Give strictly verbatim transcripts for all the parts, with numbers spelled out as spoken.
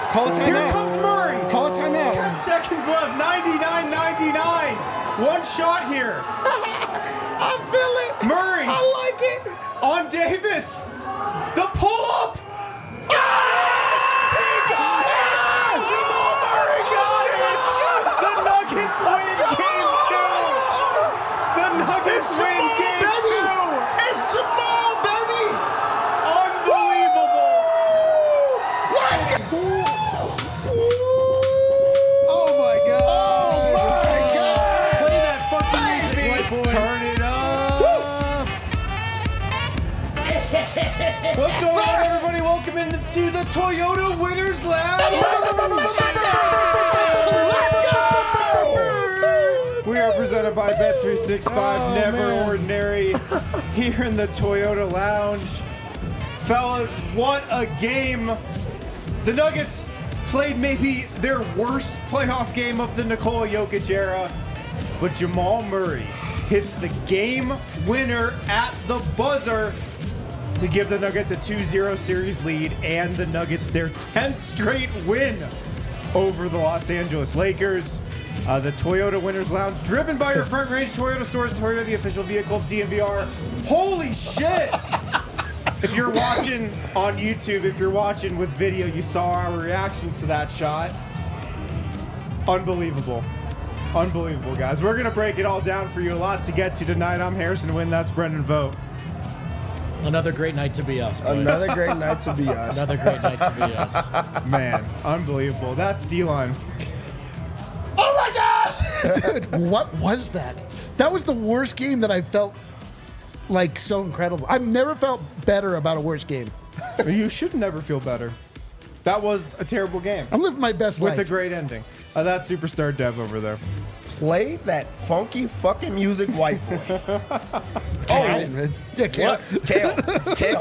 Call a timeout. Here comes Murray. Call a timeout. Ten seconds left. ninety-nine ninety-nine. One shot here. I feel it. Murray. I like it. On Davis. The pull-up. Yes! He got it! Jamal Murray got it! The Nuggets win game two! The Nuggets It's win Jamal, game baby! two! It's Jamal, baby! Unbelievable! Let's go! Oh my God! Oh my God! Play that fucking music, Baby! white boy. Turn it up! What's going on, everybody? Welcome into the Toyota Winners Lounge! Let's go! We are presented by Bet three sixty-five, Oh, Never man. Ordinary, here in the Toyota Lounge. Fellas, what a game. The Nuggets played maybe their worst playoff game of the Nikola Jokic era, but Jamal Murray hits the game winner at the buzzer to give the Nuggets a two zero series lead and the Nuggets their tenth straight win over the Los Angeles Lakers. Uh, the Toyota Winners Lounge, driven by your Front Range Toyota stores, Toyota, the official vehicle of D N V R. Holy shit! If you're watching on YouTube, if you're watching with video, you saw our reactions to that shot. Unbelievable. Unbelievable, guys. We're going to break it all down for you. A lot to get to tonight. I'm Harrison Wynn. That's Brendan Vogt. Another great night to be us, boys. Another great night to be us. Another great night to be us. Man, unbelievable. That's D-Line. Oh my God! Dude, what was that? That was the worst game that I felt like so incredible. I've never felt better about a worse game. You should never feel better. That was a terrible game I'm living my best with life. a great ending. Uh, that's Superstar Dev over there. Play that funky fucking music, white boy. Oh, man. Yeah, Kale. What? Kale. Kale.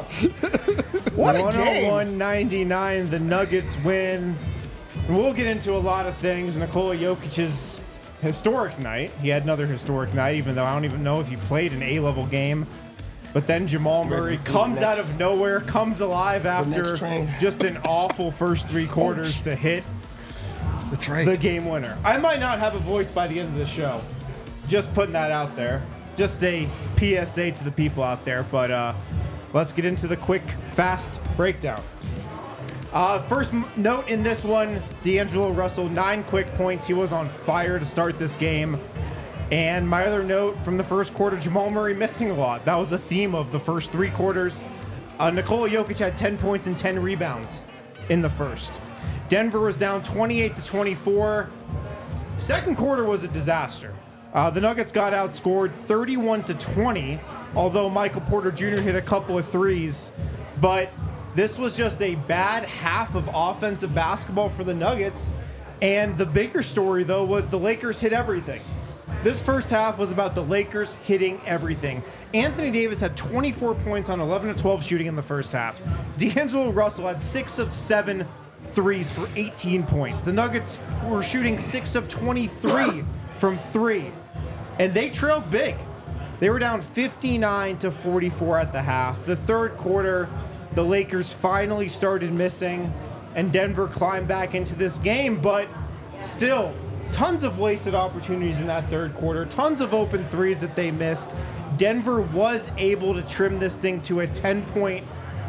What a game. one oh one ninety-nine, the Nuggets win. And we'll get into a lot of things. Nikola Jokic's historic night. He had another historic night, even though I don't even know if he played an A-level game. But then Jamal Murray to see comes the out next- of nowhere, comes alive after next train. just an awful first three quarters to hit That's right. the game winner. I might not have a voice by the end of the show. Just putting that out there. Just a P S A to the people out there. But uh, let's get into the quick, fast breakdown. Uh, first m- note in this one, D'Angelo Russell, nine quick points. He was on fire to start this game. And my other note from the first quarter, Jamal Murray missing a lot. That was the theme of the first three quarters. Uh, Nikola Jokic had ten points and ten rebounds in the first. Denver was down twenty-eight to twenty-four. Second quarter was a disaster. Uh, the Nuggets got outscored thirty-one to twenty, although Michael Porter Junior hit a couple of threes. But this was just a bad half of offensive basketball for the Nuggets. And the bigger story, though, was the Lakers hit everything. This first half was about the Lakers hitting everything. Anthony Davis had twenty-four points on eleven of twelve shooting in the first half. D'Angelo Russell had six of seven threes for eighteen points. The Nuggets were shooting six of twenty-three from three. And they trailed big. They were down fifty-nine to forty-four at the half. The third quarter, the Lakers finally started missing, and Denver climbed back into this game, but still, tons of wasted opportunities in that third quarter, tons of open threes that they missed. Denver was able to trim this thing to a ten-point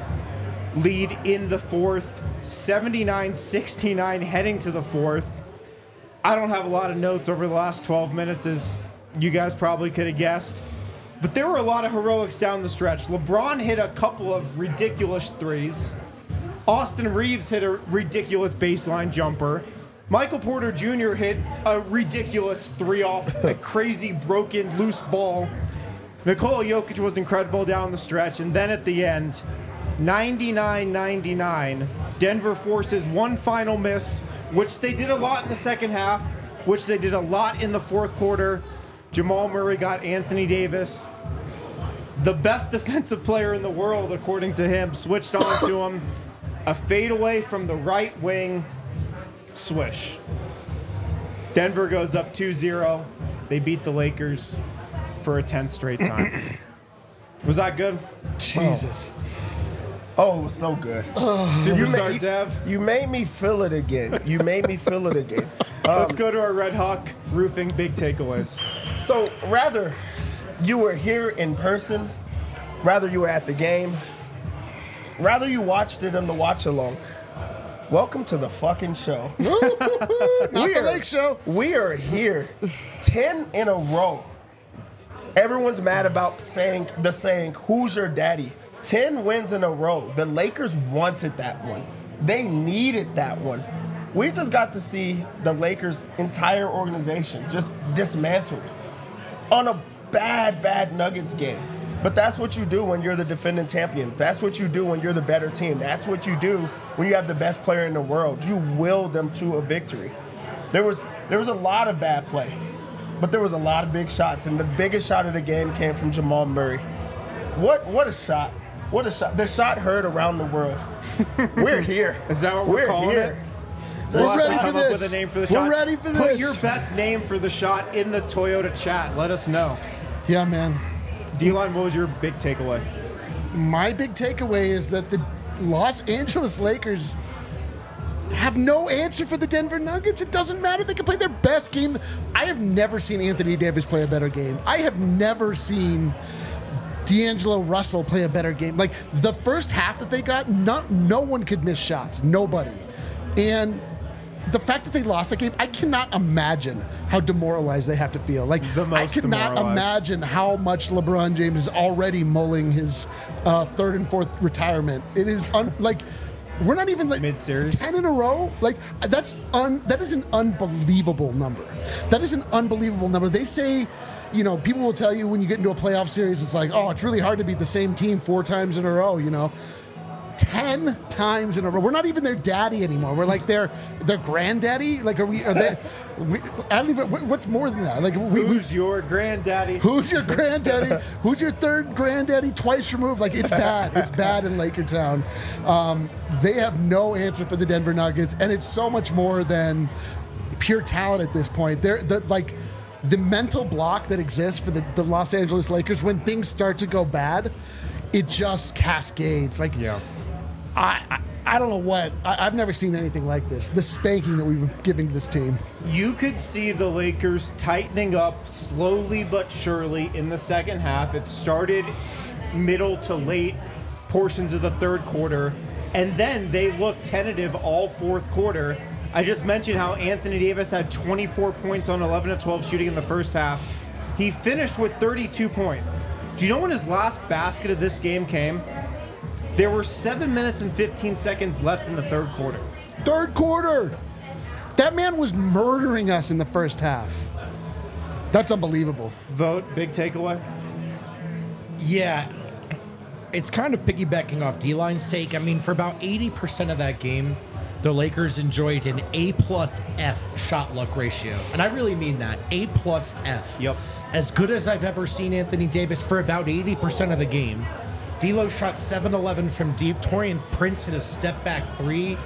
lead in the fourth, seventy-nine sixty-nine heading to the fourth. I don't have a lot of notes over the last twelve minutes, as you guys probably could have guessed. But there were a lot of heroics down the stretch. LeBron hit a couple of ridiculous threes. Austin Reeves hit a ridiculous baseline jumper. Michael Porter Junior hit a ridiculous three off a crazy broken loose ball. Nikola Jokic was incredible down the stretch. And then at the end, ninety-nine ninety-nine, Denver forces one final miss, which they did a lot in the second half, which they did a lot in the fourth quarter. Jamal Murray got Anthony Davis, the best defensive player in the world, according to him, switched on to him. A fadeaway from the right wing, swish. Denver goes up two zero. They beat the Lakers for a tenth straight time. Was that good? Jesus. Oh, it was so good. you, Superstar you, Dev. you made me feel it again. You made me feel it again. Um, Let's go to our Red Hawk roofing big takeaways. So rather you were here in person, rather you were at the game, rather you watched it on the watch along. Welcome to the fucking show. Not we the are, Lake Show. We are here, ten in a row. Everyone's mad about saying the saying, "Who's your daddy?" ten wins in a row. The Lakers wanted that one. They needed that one. We just got to see the Lakers' entire organization just dismantled on a bad, bad Nuggets game. But that's what you do when you're the defending champions. That's what you do when you're the better team. That's what you do when you have the best player in the world. You will them to a victory. There was there was a lot of bad play, but there was a lot of big shots, and the biggest shot of the game came from Jamal Murray. What what a shot. What a shot. The shot heard around the world. We're here. Is that what we're, We're calling here. it? We're We'll have ready to for come this. up with a name for the We're shot. ready for Put this. your best name for the shot in the Toyota chat. Let us know. Yeah, man. D-Line, what was your big takeaway? My big takeaway is that the Los Angeles Lakers have no answer for the Denver Nuggets. It doesn't matter. They can play their best game. I have never seen Anthony Davis play a better game. I have never seen D'Angelo Russell play a better game. Like, the first half that they got, no, no one could miss shots. Nobody. And the fact that they lost that game, I cannot imagine how demoralized they have to feel. Like, The most I cannot demoralized. imagine how much LeBron James is already mulling his uh, third and fourth retirement. It is un- like we're not even like Mid-series? ten in a row. Like, that's un- that is an unbelievable number. That is an unbelievable number. They say, you know, people will tell you when you get into a playoff series, it's like, oh, it's really hard to beat the same team four times in a row. You know. Ten times in a row. We're not even their daddy anymore. We're like their their granddaddy. Like, are we? Are they? We, I don't even. what- What's more than that? Like, we, we, Who's your granddaddy? who's your granddaddy? Who's your third granddaddy? Twice removed. Like, it's bad. It's bad in Lakertown. Um, they have no answer for the Denver Nuggets, and it's so much more than pure talent at this point. They're the like. The mental block that exists for the, the Los Angeles Lakers when things start to go bad, it just cascades. Like, Yeah. I, I I don't know what. I, I've never seen anything like this. The spanking that we've been giving this team. You could see the Lakers tightening up slowly but surely in the second half. It started middle to late portions of the third quarter, and then they looked tentative all fourth quarter. I just mentioned how Anthony Davis had twenty-four points on eleven of twelve shooting in the first half. He finished with thirty-two points. Do you know when his last basket of this game came? There were seven minutes and fifteen seconds left in the third quarter. Third quarter. That man was murdering us in the first half. That's unbelievable. Vote, big takeaway. Yeah, it's kind of piggybacking off D-Line's take. I mean, for about eighty percent of that game, the Lakers enjoyed an A plus F shot luck ratio. And I really mean that. A plus F. Yep. As good as I've ever seen Anthony Davis for about eighty percent of the game. D'Lo shot seven eleven from deep. Torian Prince hit a step back three.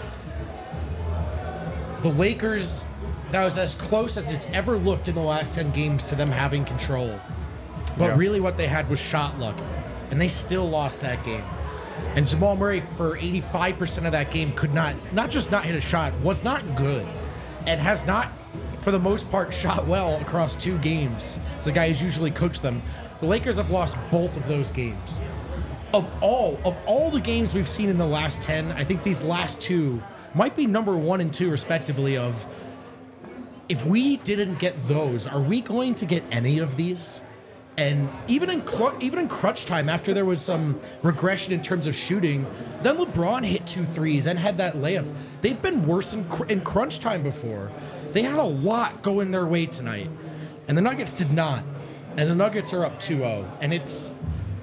The Lakers, that was as close as it's ever looked in the last ten games to them having control. But Yeah. really what they had was shot luck. And they still lost that game. And Jamal Murray, for eighty-five percent of that game, could not, not just not hit a shot, was not good. And has not, for the most part, shot well across two games. It's a guy who usually cooks them. The Lakers have lost both of those games. Of all of all the games we've seen in the last ten, I think these last two might be number one and two respectively of if we didn't get those, are we going to get any of these? And even in cl- even in crunch time, after there was some regression in terms of shooting, then LeBron hit two threes and had that layup. They've been worse in, cr- in crunch time before. They had a lot going their way tonight, and the Nuggets did not. And the Nuggets are up two oh, and it's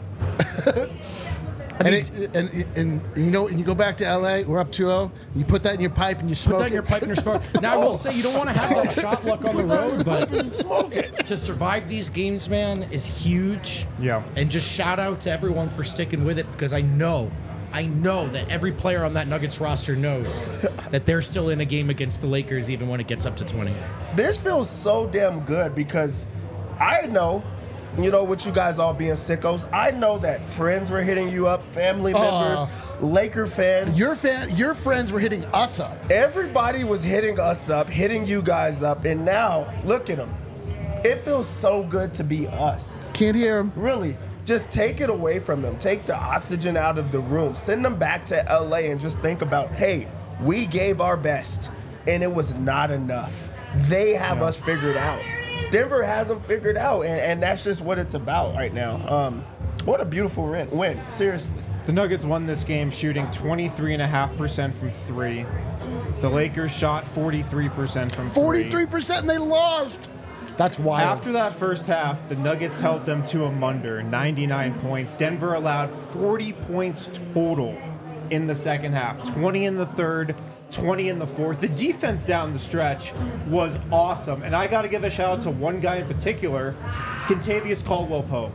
And, it, and, and you know, and you go back to L A, we're up two oh, you put that in your pipe and you smoke put that in your it. pipe and your smoke. Now I will say you don't want to have that shot luck on the road, but to survive these games, man, is huge. Yeah. And just shout out to everyone for sticking with it because I know, I know that every player on that Nuggets roster knows that they're still in a game against the Lakers even when it gets up to twenty. This feels so damn good because I know you know, with you guys all being sickos, I know that friends were hitting you up, family members, Laker fans. Your fan, your friends were hitting us up. Everybody was hitting us up, hitting you guys up, and now look at them. It feels so good to be us. Can't hear them. Really, just take it away from them. Take the oxygen out of the room. Send them back to L A and just think about, hey, we gave our best, and it was not enough. They have us figured out. Denver has them figured out, and, and that's just what it's about right now. Um, what a beautiful win, win, seriously. The Nuggets won this game shooting twenty-three point five percent from three. The Lakers shot forty-three percent from three. forty-three percent and they lost. That's wild. After that first half, the Nuggets held them to a munder, ninety-nine points. Denver allowed forty points total in the second half, twenty in the third, twenty in the fourth. The defense down the stretch was awesome. And I got to give a shout out to one guy in particular, Kentavious Caldwell-Pope.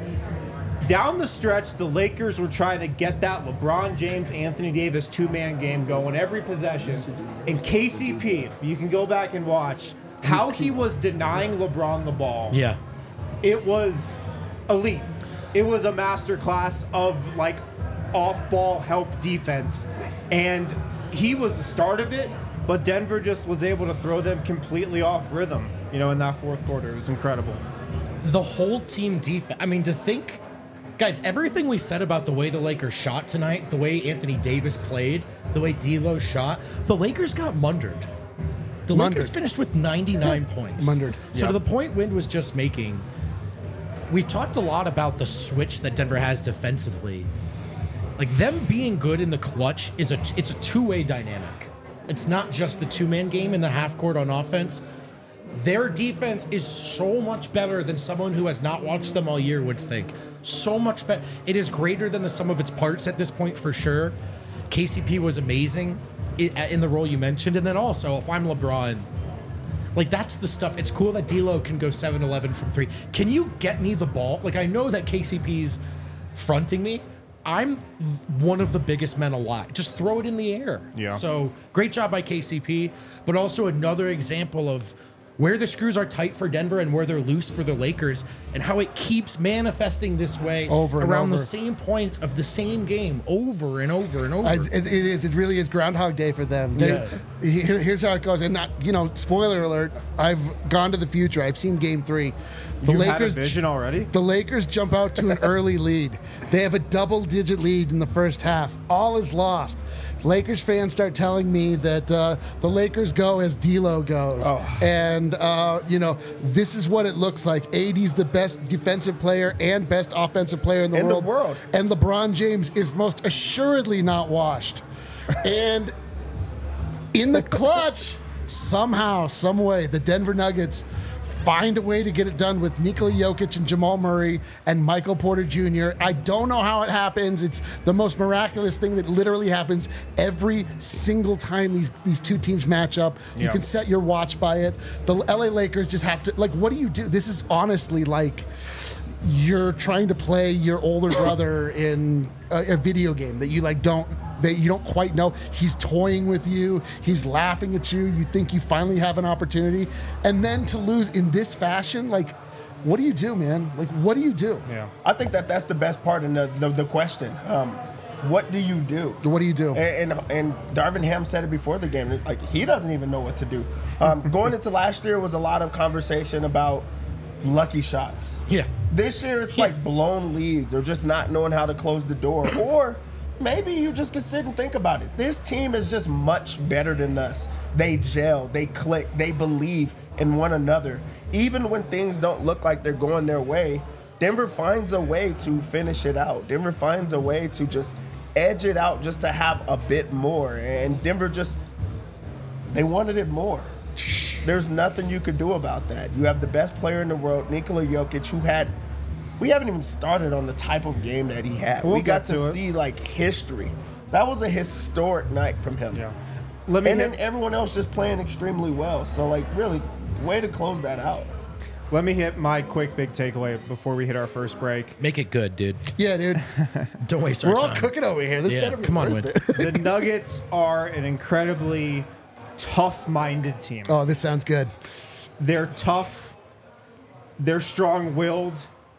Down the stretch, the Lakers were trying to get that LeBron James, Anthony Davis two-man game going every possession. And K C P, you can go back and watch how he was denying LeBron the ball. Yeah. It was elite. It was a masterclass of like off-ball help defense. And he was the start of it, but Denver just was able to throw them completely off rhythm, you know, in that fourth quarter. It was incredible. The whole team defense. I mean, to think, guys, everything we said about the way the Lakers shot tonight, the way Anthony Davis played, the way D'Lo shot, the Lakers got mundered. The Mundered. Lakers finished with ninety-nine points. Mundered. So Yep. to the point Wind was just making, we've talked a lot about the switch that Denver has defensively. Like, them being good in the clutch is a it's a two-way dynamic. It's not just the two-man game in the half court on offense. Their defense is so much better than someone who has not watched them all year would think. So much better. It is greater than the sum of its parts at this point for sure. K C P was amazing i- in the role you mentioned. And then also, if I'm LeBron, like, that's the stuff. It's cool that D'Lo can go seven eleven from three. Can you get me the ball? Like, I know that K C P's fronting me. I'm one of the biggest men alive. Just throw it in the air. Yeah. So great job by K C P, but also another example of where the screws are tight for Denver and where they're loose for the Lakers, and how it keeps manifesting this way Over and around over. the same points of the same game over and over and over. I, it, it is. It really is Groundhog Day for them. They- here- here's how it goes. And not, you know, spoiler alert. I've gone to the future. I've seen Game Three. The You had a Lakers vision already? The Lakers jump out to an early lead. They have a double-digit lead in the first half. All is lost. Lakers fans start telling me that uh, the Lakers go as D'Lo goes, Oh. and uh, you know, this is what it looks like. A D's the best defensive player and best offensive player in the In the world. world. And LeBron James is most assuredly not washed. And in the clutch, somehow, some way, the Denver Nuggets find a way to get it done with Nikola Jokic and Jamal Murray and Michael Porter Junior I don't know how it happens. It's the most miraculous thing that literally happens every single time these, these two teams match up. You Yeah. can set your watch by it. The L A Lakers just have to, like, what do you do? This is honestly like you're trying to play your older brother in a, a video game that you like don't that you don't quite know. He's toying with you. He's laughing at you. You think you finally have an opportunity, and then to lose in this fashion, like, what do you do, man? Like, what do you do? Yeah. I think that that's the best part in the, the, the question. Um, what do you do? What do you do? And, and and Darvin Ham said it before the game. Like, he doesn't even know what to do. Um, going into last year was a lot of conversation about lucky shots. yeah. This year it's like blown leads or just not knowing how to close the door. Or maybe you just can sit and think about it. This team is just much better than us. They gel, they click, they believe in one another. Even when things don't look like they're going their way, Denver finds a way to finish it out. Denver finds a way to just edge it out just to have a bit more. And Denver just, they wanted it more. There's nothing you could do about that. You have the best player in the world, Nikola Jokic, who had, we haven't even started on the type of game that he had. We'll we got get to, to it. see like history. That was a historic night from him. Yeah. Let me And hit, then everyone else just playing extremely well. So like really, way to close that out. let me hit my quick big takeaway before we hit our first break. Make it good, dude. Yeah, dude. Don't waste our We're all time. cooking over here. This Yeah, better be come on, worth Win. it. The Nuggets are an incredibly tough-minded team. Oh, this sounds good. They're tough. They're strong-willed.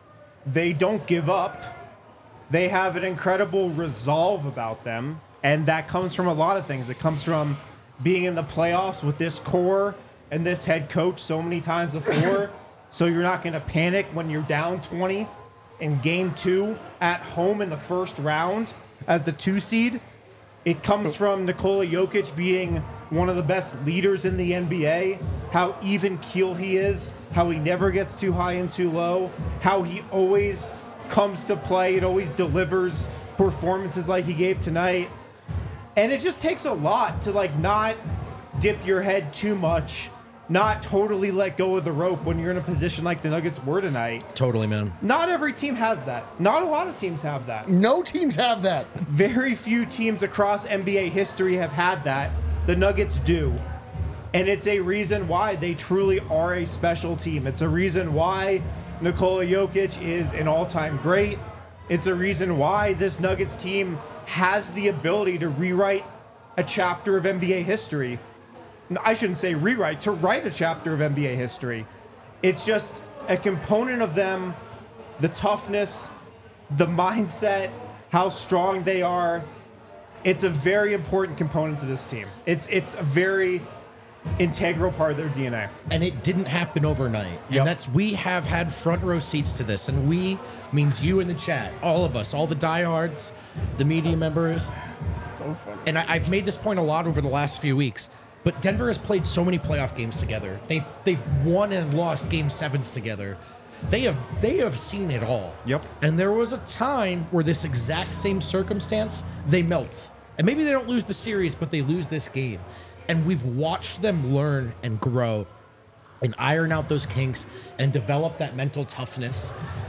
they don't give up. They have an incredible resolve about them, and that comes from a lot of things. It comes from being in the playoffs with this core and this head coach so many times before, so you're not going to panic when you're down twenty in game two at home in the first round as the two seed. It comes from Nikola Jokic being one of the best leaders in the N B A, how even keel he is, how he never gets too high and too low, how he always comes to play and always delivers performances like he gave tonight. And it just takes a lot to like not dip your head too much, not totally let go of the rope when you're in a position like the Nuggets were tonight. Totally, man. Not every team has that. Not a lot of teams have that. No teams have that. Very few teams across N B A history have had that. The Nuggets do. And it's a reason why they truly are a special team. It's a reason why Nikola Jokic is an all-time great. It's a reason why this Nuggets team has the ability to rewrite a chapter of N B A history. I shouldn't say rewrite, to write a chapter of N B A history. It's just a component of them, the toughness, the mindset, how strong they are. It's a very important component to this team. It's it's a very integral part of their D N A. And it didn't happen overnight. Yep. And that's, we have had front row seats to this. And we means you in the chat, all of us, all the diehards, the media members. So funny. And I, I've made this point a lot over the last few weeks. But Denver has played so many playoff games together. They they've won and lost game sevens together. They have they have seen it all. Yep. And there was a time where this exact same circumstance, they melt. And maybe they don't lose the series, but they lose this game. And we've watched them learn and grow and iron out those kinks and develop that mental toughness.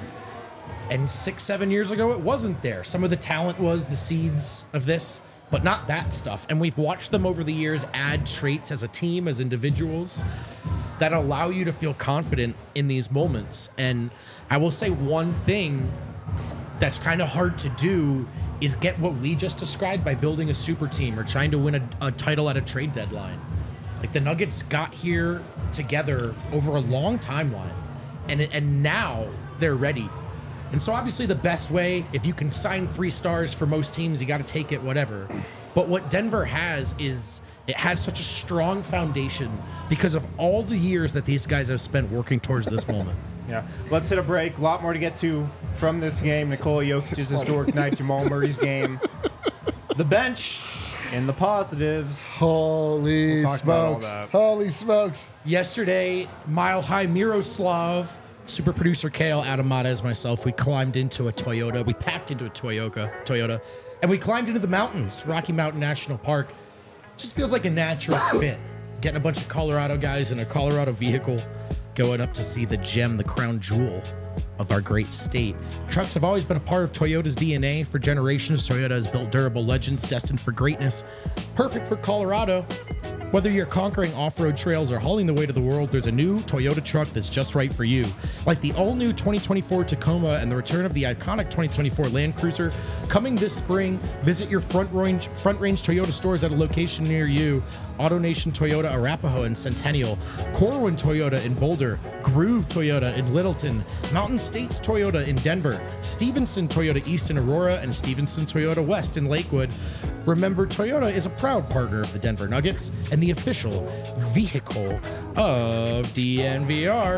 And six, seven years ago, it wasn't there. Some of the talent was the seeds of this, but not that stuff. And we've watched them over the years add traits as a team, as individuals, that allow you to feel confident in these moments. And I will say one thing that's kind of hard to do is get what we just described by building a super team or trying to win a, a title at a trade deadline. Like the Nuggets got here together over a long timeline, and and now they're ready. And so obviously the best way, if you can sign three stars for most teams, you got to take it, whatever. But what Denver has is it has such a strong foundation because of all the years that these guys have spent working towards this moment. Yeah. Let's hit a break. A lot more to get to from this game. Nikola Jokic's historic night, Jamal Murray's game. The bench in the positives. Holy We'll talk about all smokes. that. Holy smokes. Yesterday, Mile High Miroslav, super producer Kale, Adam Mata, myself, we climbed into a Toyota. We packed into a Toyota, Toyota, and we climbed into the mountains, Rocky Mountain National Park. Just feels like a natural fit. Getting a bunch of Colorado guys in a Colorado vehicle, going up to see the gem, the crown jewel of our great state. Trucks have always been a part of Toyota's D N A. For generations, Toyota has built durable legends destined for greatness. Perfect for Colorado. Whether you're conquering off-road trails or hauling the way to the world, there's a new Toyota truck that's just right for you. Like the all-new twenty twenty-four Tacoma and the return of the iconic twenty twenty-four Land Cruiser. Coming this spring, visit your Front Range, Front Range Toyota stores at a location near you. AutoNation Toyota Arapahoe and Centennial, Corwin Toyota in Boulder, Groove Toyota in Littleton, Mountain States Toyota in Denver, Stevenson Toyota East in Aurora, and Stevenson Toyota West in Lakewood. Remember, Toyota is a proud partner of the Denver Nuggets and the official vehicle of D N V R.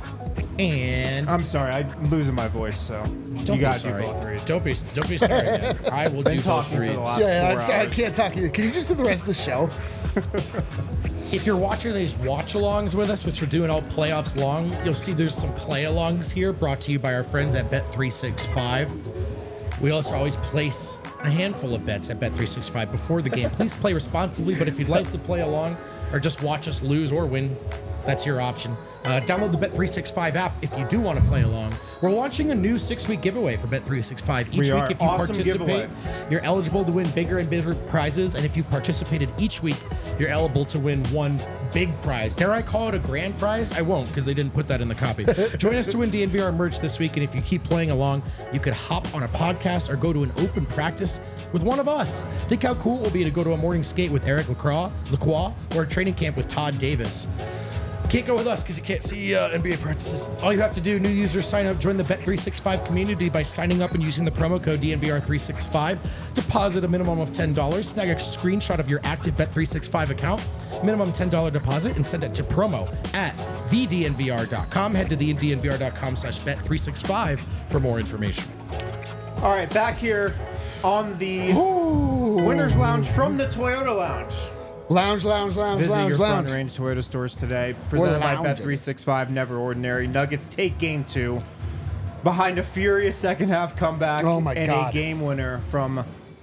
And I'm sorry, I'm losing my voice, so don't you gotta be sorry. do both reads. Don't be don't be sorry, man. I will Been do both talking for reads. the last Yeah, four I'm sorry, I hours. can't talk either. Can you just do the rest of the show? If you're watching these watch-alongs with us, which we're doing all playoffs long, you'll see there's some play-alongs here brought to you by our friends at Bet three sixty-five. We also always place a handful of bets at Bet three sixty-five before the game. Please play responsibly, but if you'd like to play along or just watch us lose or win, that's your option. Uh, download the Bet three sixty-five app if you do want to play along. We're launching a new six-week giveaway for Bet three sixty-five. Each We week, are. if you Awesome participate, giveaway. you're eligible to win bigger and bigger prizes. And if you participated each week, you're eligible to win one big prize. Dare I call it a grand prize? I won't, because they didn't put that in the copy. Join us to win D N V R merch this week. And if you keep playing along, you could hop on a podcast or go to an open practice with one of us. Think how cool it will be to go to a morning skate with Eric Lacroix, Lacroix or a training camp with Todd Davis. Can't go with us because you can't see uh, N B A practices. All you have to do, new users sign up, join the Bet three sixty-five community by signing up and using the promo code D N V R three sixty-five. Deposit a minimum of ten dollars. Snag a screenshot of your active Bet three sixty-five account. Minimum ten dollars deposit and send it to promo at the D N V R dot com. Head to the D N V R dot com slash Bet three sixty-five for more information. All right, back here on the Ooh. Winners Lounge from the Toyota Lounge. Lounge, lounge, lounge, Visit lounge, your lounge. front range Toyota stores today. Presented by lounging. Bet three sixty-five. Never ordinary. Nuggets take game two behind a furious second half comeback Oh my and God. a game winner from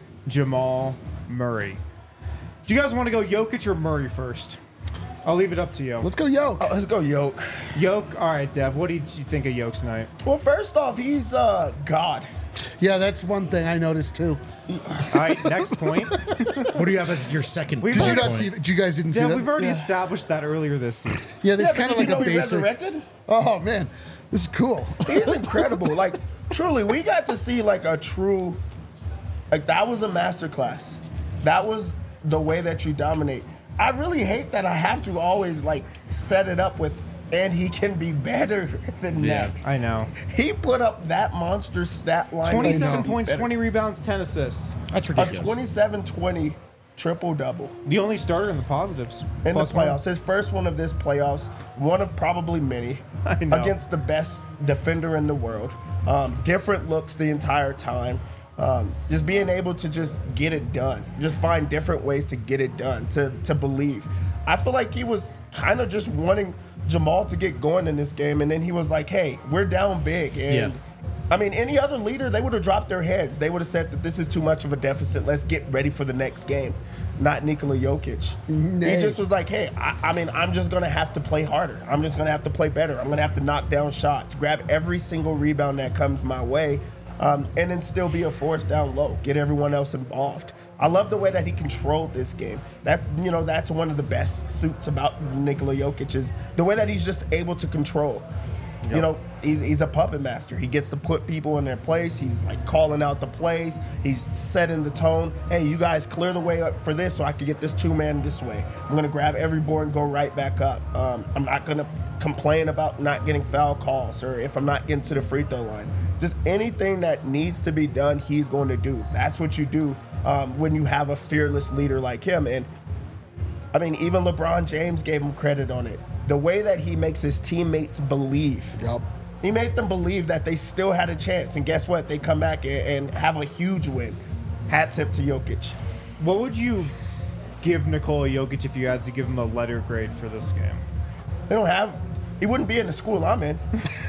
Jamal Murray. Do you guys want to go Jokic or Murray first? I'll leave it up to you. Let's go, yo. Oh, let's go, Yoke. Yoke. All right, Dev. What did you think of Yoke's night? Well, first off, he's uh, God. Yeah, that's one thing I noticed too. All right, next point. What do you have as your second We've Did you bullet not point? see that? You guys didn't see Dev, that? we've already Yeah. established that earlier this season. Yeah, that's Yeah, kind of but like did you a know he basic. resurrected? Oh man, this is cool. He's incredible. Like, truly, we got to see like a true, like that was a masterclass. That was the way that you dominate. I really hate that I have to always like set it up with, and he can be better than Yeah. that. I know. He put up that monster stat line. twenty-seven know. points, Better. twenty rebounds, ten assists. That's A ridiculous. twenty-seven twenty triple double The only starter in the positives. in Plus the one. playoffs. His first one of this playoffs, one of probably many, I know. against the best defender in the world. Um, different looks the entire time. Um, just being able to just get it done, just find different ways to get it done, to to believe. I feel like he was kind of just wanting Jamal to get going in this game, and then he was like, "Hey, we're down big," and. Yeah. I mean, any other leader, they would have dropped their heads. They would have said that this is too much of a deficit. Let's get ready for the next game. Not Nikola Jokic. Nay. He just was like, hey, I, I mean, I'm just going to have to play harder. I'm just going to have to play better. I'm going to have to knock down shots, grab every single rebound that comes my way, um, and then still be a force down low, get everyone else involved. I love the way that he controlled this game. That's, you know, that's one of the best suits about Nikola Jokic is the way that he's just able to control. You know, he's, he's a puppet master. He gets to put people in their place. He's like calling out the plays. He's setting the tone. Hey, you guys clear the way up for this so I can get this two man this way. I'm going to grab every board and go right back up. Um, I'm not going to complain about not getting foul calls or if I'm not getting to the free throw line. Just anything that needs to be done, he's going to do. That's what you do um, when you have a fearless leader like him. And I mean, even LeBron James gave him credit on it. The way that he makes his teammates believe. Yup. He made them believe that they still had a chance. And guess what? They come back and, and have a huge win. Hat tip to Jokic. What would you give Nikola Jokic if you had to give him a letter grade for this game? They don't have. He wouldn't be in the school I'm in.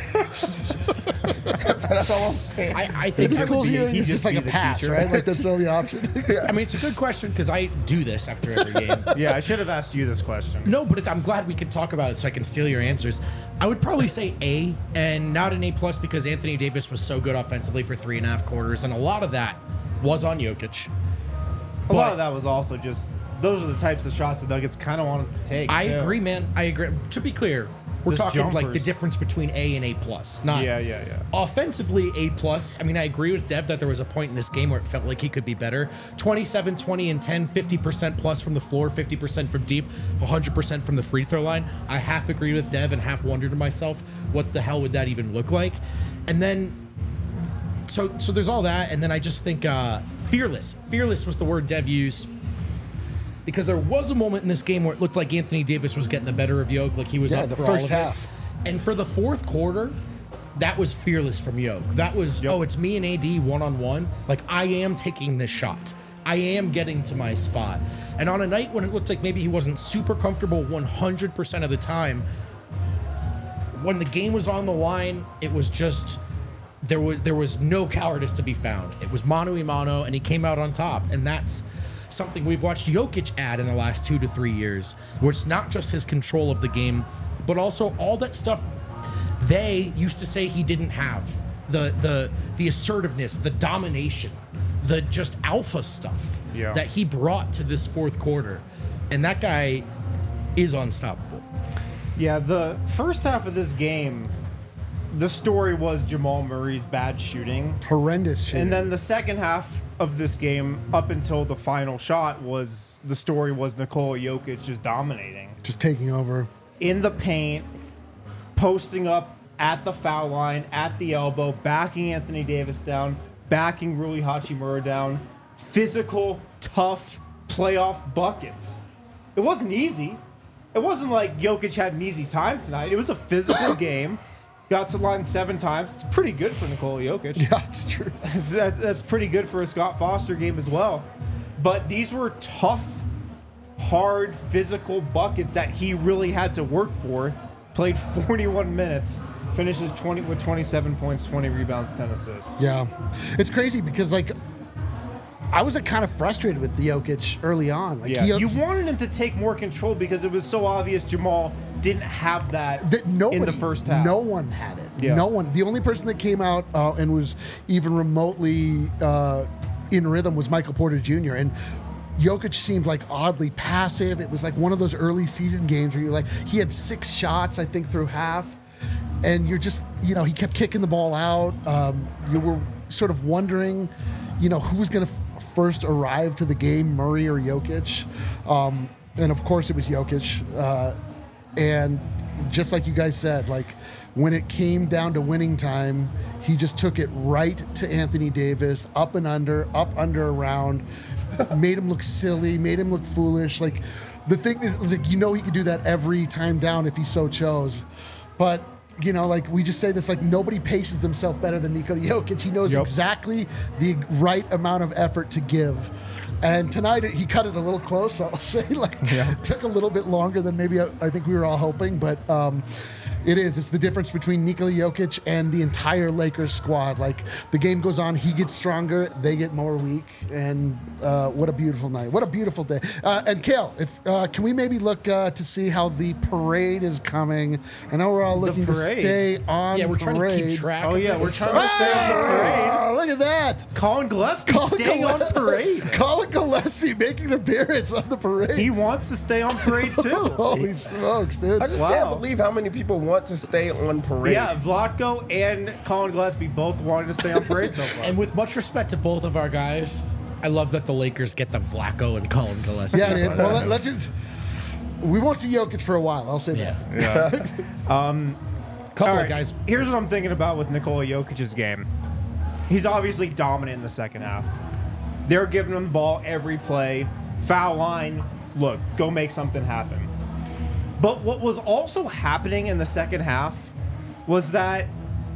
that's, that's all I'm saying. I, I If think the I would school's be- here, he'd it's just just like be a the pass, teacher. right? Like that's the only option. I mean, it's a good question because I do this after every game. Yeah, I should have asked you this question. No, but it's, I'm glad we could talk about it so I can steal your answers. I would probably say A and not an A plus because Anthony Davis was so good offensively for three and a half quarters, and a lot of that was on Jokic. A lot But- of that was also just those are the types of shots the Nuggets kind of wanted to take. I too. agree, man. I agree. To be clear, we're Just talking like the jumpers. difference between A and A plus. Not Yeah, yeah, yeah. offensively A plus. I mean, I agree with Dev that there was a point in this game where it felt like he could be better. twenty-seven, twenty, and ten, fifty percent plus from the floor, fifty percent from deep, one hundred percent from the free throw line. I half agree with Dev and half wonder to myself, what the hell would that even look like? And then so so there's all that, and then I just think uh, fearless. Fearless was the word Dev used. Because there was a moment in this game where it looked like Anthony Davis was getting the better of Yoke, like he was Yeah, up the for first all of this. half. And for the fourth quarter, that was fearless from Yoke. That was, Yep. oh, it's me and A D one-on-one. Like, I am taking this shot. I am getting to my spot. And on a night when it looked like maybe he wasn't super comfortable one hundred percent of the time, when the game was on the line, it was just... There was there was no cowardice to be found. It was mano a mano, and he came out on top. And that's something we've watched Jokic add in the last two to three years, where it's not just his control of the game, but also all that stuff they used to say he didn't have. The the the assertiveness, the domination, the just alpha stuff Yeah. that he brought to this fourth quarter. And that guy is unstoppable. Yeah, the first half of this game, the story was Jamal Murray's bad shooting. Horrendous shit. And then the second half of this game, up until the final shot, was the story was Nikola Jokic just dominating. just taking over. in the paint, posting up at the foul line, at the elbow, backing Anthony Davis down, backing Rui Hachimura down. Physical, tough playoff buckets. It wasn't easy. It wasn't like Jokic had an easy time tonight. It was a physical game. Got to the line seven times. It's pretty good for Nikola Jokic. Yeah, it's true. that, that's pretty good for a Scott Foster game as well. But these were tough, hard, physical buckets that he really had to work for. Played forty-one minutes, finishes twenty with twenty-seven points, twenty rebounds, ten assists. Yeah, it's crazy because like I was like, kind of frustrated with Jokic early on. Like, Yeah, he, you wanted him to take more control because it was so obvious Jamal didn't have that that nobody, in the first half. No one had it. Yeah. No one. The only person that came out uh, and was even remotely uh, in rhythm was Michael Porter Junior And Jokic seemed like oddly passive. It was like one of those early season games where you're like, he had six shots, I think, through half. And you're just, you know, he kept kicking the ball out. Um, you were sort of wondering, you know, who was going to f- first arrive to the game, Murray or Jokic. Um, and of course it was Jokic. Uh, and just like you guys said, like when it came down to winning time, he just took it right to Anthony Davis, up and under, up, under, around, made him look silly, made him look foolish. Like the thing is, is like, you know, he could do that every time down if he so chose. But you know, like we just say this, like nobody paces themselves better than Nikola Jokic. He knows Yep. exactly the right amount of effort to give. And tonight he cut it a little close, I'll say. Like, Yeah. it took a little bit longer than maybe I, I think we were all hoping, but um, it is. It's the difference between Nikola Jokic and the entire Lakers squad. Like, the game goes on, he gets stronger, they get more weak, and uh, what a beautiful night. What a beautiful day. Uh, and Kale, if uh, can we maybe look uh, to see how the parade is coming? I know we're all looking to parade? stay on Yeah, we're trying to parade. keep track. Oh of yeah, this. we're trying to stay on the parade. Oh, look at that. Colin Gillespie Colin staying on Gillespie- parade. Colin Gillespie making an appearance on the parade. He wants to stay on parade too. Holy smokes, dude. I just Wow. can't believe how many people want to stay on parade. Yeah, Vlatko and Colin Gillespie both wanted to stay on parade so far. And with much respect to both of our guys, I love that the Lakers get the Vlatko and Colin Gillespie. Yeah, dude. Well, let, let's just. We won't see Jokic for a while. I'll say Yeah. that. Couple All of right, guys. Here's what I'm thinking about with Nikola Jokic's game. He's obviously dominant in the second half. They're giving him the ball every play. Foul line, look, go make something happen. But what was also happening in the second half was that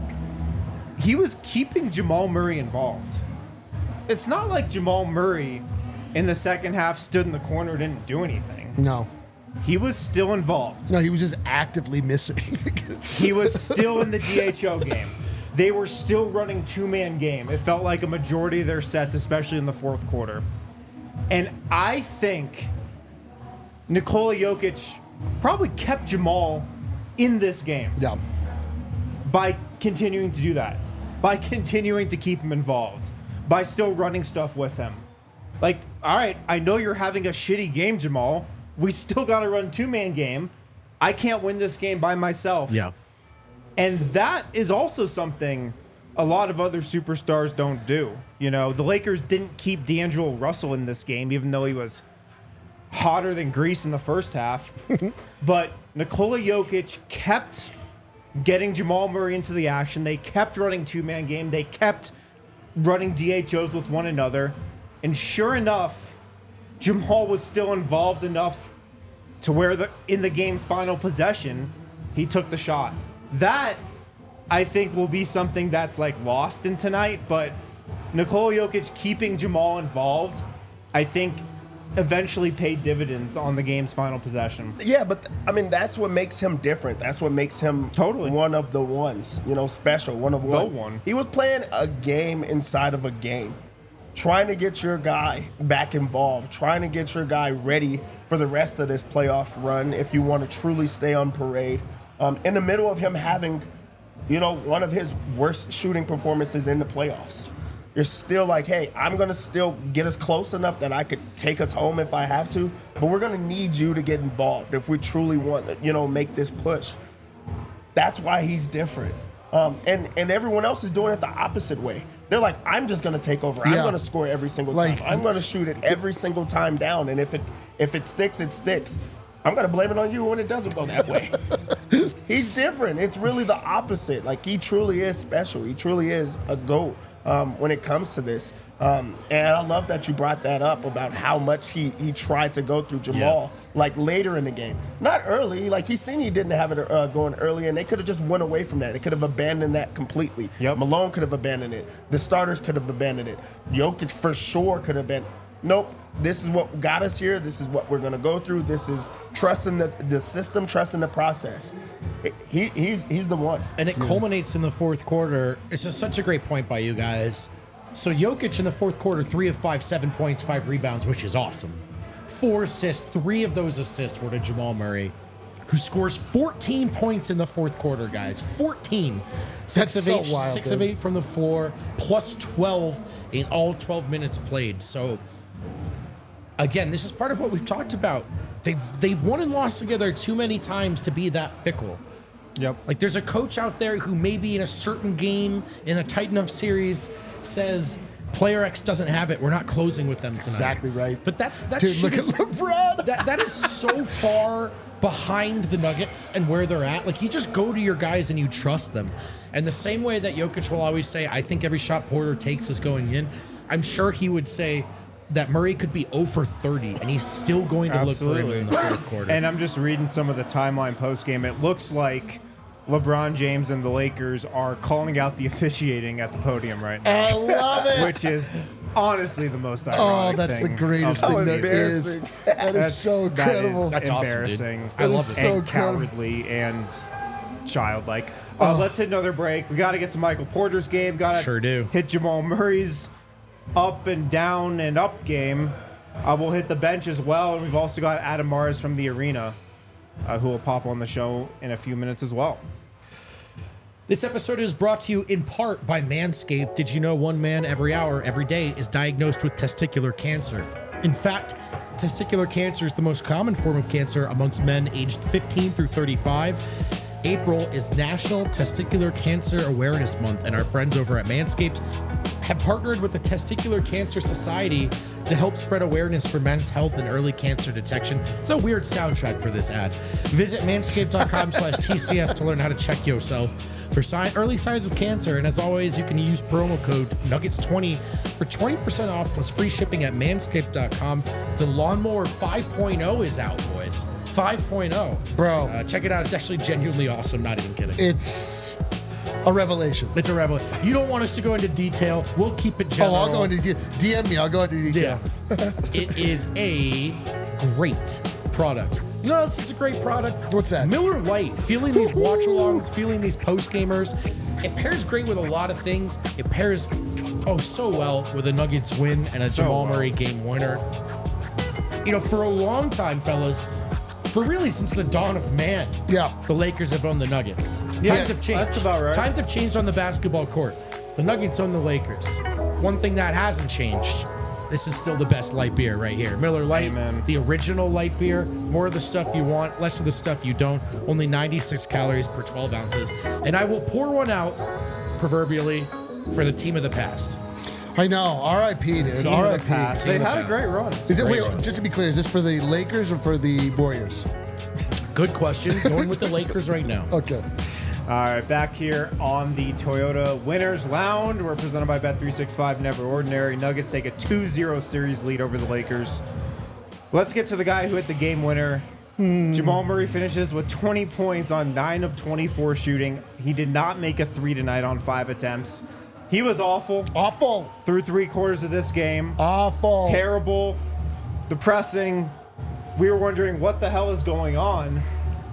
he was keeping Jamal Murray involved. It's not like Jamal Murray in the second half stood in the corner and didn't do anything. No. He was still involved. No, he was just actively missing. He was still in the D H O game. They were still running two-man game. It felt like a majority of their sets, especially in the fourth quarter. And I think Nikola Jokic probably kept Jamal in this game Yeah. by continuing to do that, by continuing to keep him involved, by still running stuff with him. Like, all right, I know you're having a shitty game, Jamal. We still got to run two-man game. I can't win this game by myself. Yeah. And that is also something a lot of other superstars don't do. You know, the Lakers didn't keep D'Angelo Russell in this game, even though he was hotter than grease in the first half. But Nikola Jokic kept getting Jamal Murray into the action. They kept running two-man game. They kept running D H Os with one another. And sure enough, Jamal was still involved enough to where the in the game's final possession, he took the shot. That, I think, will be something that's like lost in tonight, but Nikola Jokic keeping Jamal involved, I think, eventually paid dividends on the game's final possession. Yeah, but th- I mean, that's what makes him different. That's what makes him Totally. one of the ones, you know, special, one of one. one. He was playing a game inside of a game, trying to get your guy back involved, trying to get your guy ready for the rest of this playoff run if you want to truly stay on parade. Um, in the middle of him having, you know, one of his worst shooting performances in the playoffs. You're still like, hey, I'm going to still get us close enough that I could take us home if I have to, but we're going to need you to get involved if we truly want to, you know, make this push. That's why he's different. Um, and, and everyone else is doing it the opposite way. They're like, I'm just going to take over. I'm Yeah. going to score every single Like- time. I'm going to shoot it every single time down. And if it if it sticks, it sticks. I'm gonna blame it on you when it doesn't go that way. He's different. It's really the opposite. Like, he truly is special. He truly is a GOAT um, when it comes to this. Um, and I love that you brought that up about how much he he tried to go through Jamal, yeah. like later in the game, not early. Like, he seen he didn't have it uh, going early, and they could have just went away from that. They could have abandoned that completely. Yep. Malone could have abandoned it. The starters could have abandoned it. Jokic for sure could have been. Nope. This is what got us here. This is what we're gonna go through. This is trusting the the system, trusting the process. He he's he's the one. And it culminates in the fourth quarter. It's just such a great point by you guys. So Jokic in the fourth quarter, three of five, seven points, five rebounds, which is awesome. Four assists. Three of those assists were to Jamal Murray, who scores fourteen points in the fourth quarter, guys. fourteen. Six That's of so eight, wild, six dude. of eight from the floor, plus twelve in all twelve minutes played. So again, this is part of what we've talked about. They've they've won and lost together too many times to be that fickle. Yep. Like, there's a coach out there who maybe in a certain game in a tight enough series says player X doesn't have it. We're not closing with them tonight. Exactly right. But that's that Dude, shit look at is, LeBron. that that is so far behind the Nuggets and where they're at. Like, you just go to your guys and you trust them. And the same way that Jokic will always say, I think every shot Porter takes is going in, I'm sure he would say that Murray could be zero for thirty and he's still going to Absolutely. look for him in the fourth quarter. And I'm just reading some of the timeline post game. It looks like LeBron James and the Lakers are calling out the officiating at the podium right now, I love it. which is honestly the most Oh, ironic that's thing the greatest of thing the there season. is. That is That's so incredible. That is That's awesome, dude. embarrassing. I love is it. so and incredible. cowardly and childlike. Uh, Oh. Let's hit another break. We got to get to Michael Porter's game. Got to Sure do. hit Jamal Murray's up and down and up game. Uh, we'll hit the bench as well, and we've also got Adam Mars from the arena, uh, who will pop on the show in a few minutes as well. This episode is brought to you in part by Manscaped. Did you know one man every hour, every day is diagnosed with testicular cancer? In fact, testicular cancer is the most common form of cancer amongst men aged fifteen through thirty-five. April is National Testicular Cancer Awareness Month, and our friends over at Manscaped have partnered with the Testicular Cancer Society to help spread awareness for men's health and early cancer detection. It's a weird soundtrack for this ad. Visit manscaped.com slash TCS to learn how to check yourself for sign, early signs of cancer. And as always, you can use promo code Nuggets twenty for twenty percent off plus free shipping at manscaped dot com. The Lawnmower five point oh is out, boys. five point oh. Bro. Uh, check it out. It's actually genuinely awesome. Not even kidding. It's a revelation. It's a revelation. You don't want us to go into detail. We'll keep it Oh, general. I'll go into de- D M me. I'll go into detail. Yeah. It is a great product. You know what else is a great product? What's that? Miller Lite. Feeling these watch-alongs, feeling these post-gamers. It pairs great with a lot of things. It pairs, oh, so well with a Nuggets win and a So Jamal well. Murray game winner. You know, for a long time, fellas, for really since the dawn of man, Yeah. the Lakers have owned the Nuggets. Yeah, Times have changed. that's about right. Times have changed on the basketball court. The Nuggets own the Lakers. One thing that hasn't changed, this is still the best light beer right here. Miller Lite, Amen. the original light beer. More of the stuff you want, less of the stuff you don't. Only ninety-six calories per twelve ounces. And I will pour one out, proverbially, for the team of the past. I know. R I P, dude. Team R I of the past. P. They of the had a past. great run. Is it, Great wait, run. just to be clear, is this for the Lakers or for the Warriors? Good question. Going with the Lakers right now. Okay. All right, back here on the Toyota Winners Lounge. We're presented by Bet three sixty-five, Never Ordinary. Nuggets take a two zero series lead over the Lakers. Let's get to the guy who hit the game winner. Jamal Murray finishes with twenty points on nine of twenty-four shooting. He did not make a three tonight on five attempts. He was awful Awful. through three quarters of this game. Awful. Terrible, depressing. We were wondering what the hell is going on.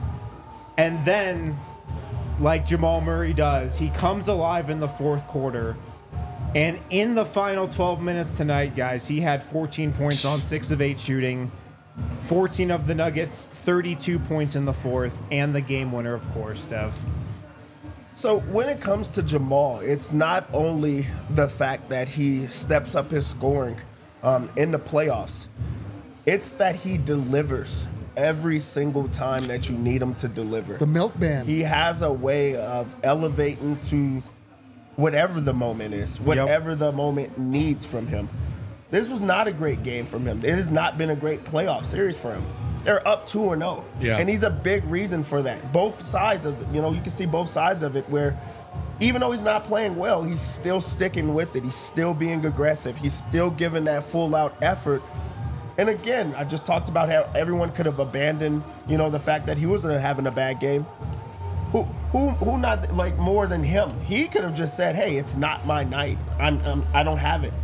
And then, like Jamal Murray does, he comes alive in the fourth quarter. And in the final twelve minutes tonight, guys, he had fourteen points on six of eight shooting. fourteen of the Nuggets, thirty-two points in the fourth, and the game winner, of course, Dev. So when it comes to Jamal, it's not only the fact that he steps up his scoring um, in the playoffs. It's that he delivers every single time that you need him to deliver. The milkman. He has a way of elevating to whatever the moment is, whatever the moment needs from him. This was not a great game from him. It has not been a great playoff series for him. they're up two or no. Yeah. And he's a big reason for that. Both sides of it, you know, you can see both sides of it where even though he's not playing well, he's still sticking with it. He's still being aggressive. He's still giving that full out effort. And again, I just talked about how everyone could have abandoned, you know, the fact that he wasn't having a bad game. Who, who, who not like more than him? He could have just said, "Hey, it's not my night. I'm, I'm I don't have it."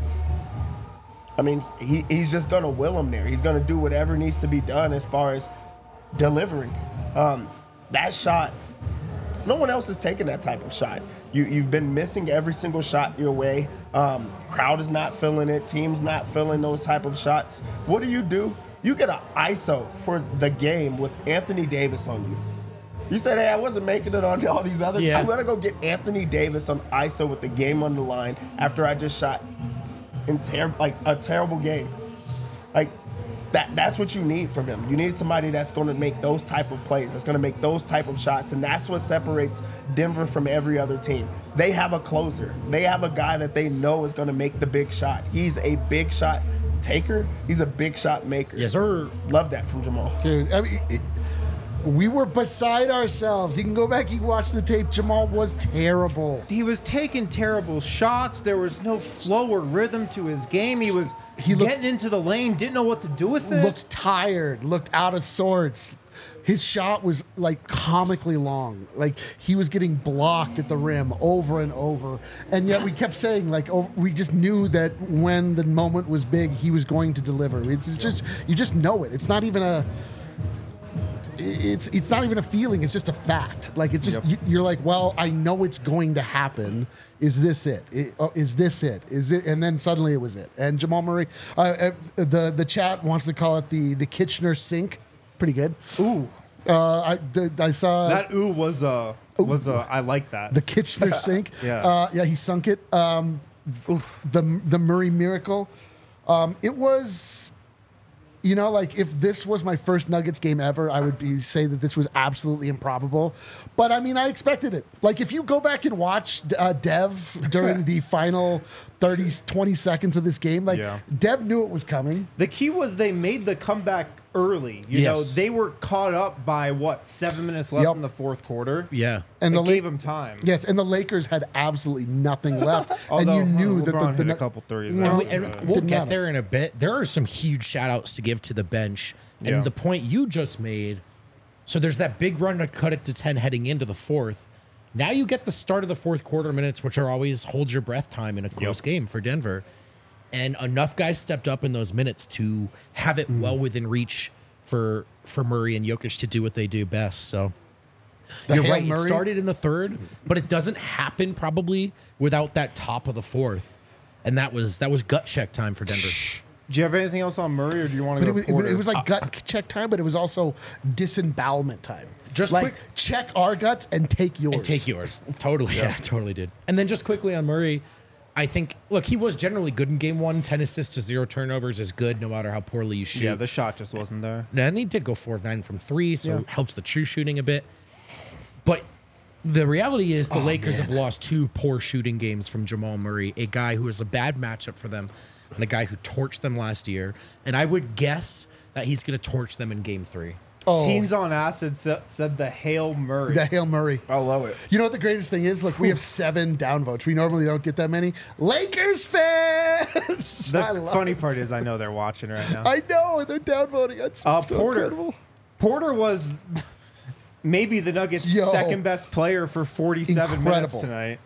I mean, he, he's just gonna will him there. He's gonna do whatever needs to be done as far as delivering. Um, that shot, no one else is taking that type of shot. You you've been missing every single shot your way. Um, crowd is not feeling it. Team's not feeling those type of shots. What do you do? You get an I S O for the game with Anthony Davis on you. You said, "Hey, I wasn't making it on all these other. Yeah. I'm gonna go get Anthony Davis on I S O with the game on the line after I just shot in ter- like a terrible game." Like that. That's what you need from him. You need somebody that's going to make those type of plays. That's going to make those type of shots, and that's what separates Denver from every other team. They have a closer. They have a guy that they know is going to make the big shot. He's a big shot taker. He's a big shot maker. Yes, sir. Love that from Jamal. Dude, I mean, it, we were beside ourselves. You can go back, you can watch the tape. Jamal was terrible. He was taking terrible shots. There was no flow or rhythm to his game. He was He looked- getting into the lane, didn't know what to do with it. Looked tired, looked out of sorts. His shot was like comically long. Like he was getting blocked at the rim over and over. And yet we kept saying, like, oh, we just knew that when the moment was big, he was going to deliver. It's just, you just know it. It's not even a, it's it's not even a feeling. It's just a fact. Like it's just Yep. you, you're like, well, I know it's going to happen. Is this it? It- oh, Is this it? Is it? And then suddenly it was it. And Jamal Murray, uh, uh, the the chat wants to call it the the Kitchener sink. Pretty good. Ooh, Uh, I the, I saw that ooh was uh was uh I like that. the Kitchener sink. Yeah. uh, yeah, he sunk it. Um, the the Murray miracle. Um, it was. You know, like if this was my first Nuggets game ever, I would be say that this was absolutely improbable. But I mean, I expected it. Like if you go back and watch uh, Dev during the final thirty, twenty seconds of this game, like Yeah. Dev knew it was coming. The key was they made the comeback early. You know, Yes. they were caught up by what seven minutes left Yep. in the fourth quarter. Yeah. And it the gave La- them time. Yes, and the Lakers had absolutely nothing left, and Although you knew uh, that LeBron the, the hit Nu- a couple threes. No. And, there, we, and but- we'll Didn't get matter. there in a bit. There are some huge shout outs to give to the bench. And Yeah. the point you just made, so there's that big run to cut it to ten heading into the fourth. Now you get the start of the fourth quarter minutes, which are always hold your breath time in a close Yep. game for Denver. And enough guys stepped up in those minutes to have it well within reach for for Murray and Jokic to do what they do best. So The you're Hail right. It Murray- started in the third, but it doesn't happen probably without that top of the fourth. And that was that was gut check time for Denver. Do you have anything else on Murray, or do you want But to it go was, it, Porter? was- it was like gut check time, but it was also disembowelment time. Just like quick- check our guts and take yours. And take yours. Totally. Yeah, totally did. And then just quickly on Murray, I think, look, he was generally good in game one. ten assists to zero turnovers is good no matter how poorly you shoot. yeah, the shot just wasn't there. And he did go four of nine from three, so Yeah. it helps the true shooting a bit. But the reality is the Oh, Lakers have lost two poor shooting games from Jamal Murray, a guy who was a bad matchup for them and a guy who torched them last year. And I would guess that he's going to torch them in game three. Oh, Teens on Acid sa- said the Hail Murray. the Hail Murray. I love it. You know what the greatest thing is? Look, we have seven downvotes. We normally don't get that many. Lakers fans. The I love funny it. part is I know they're watching right now. I know they're downvoting. It's Uh, so Porter. incredible. Porter was maybe the Nuggets' Yo. second best player for forty-seven minutes Incredible. tonight.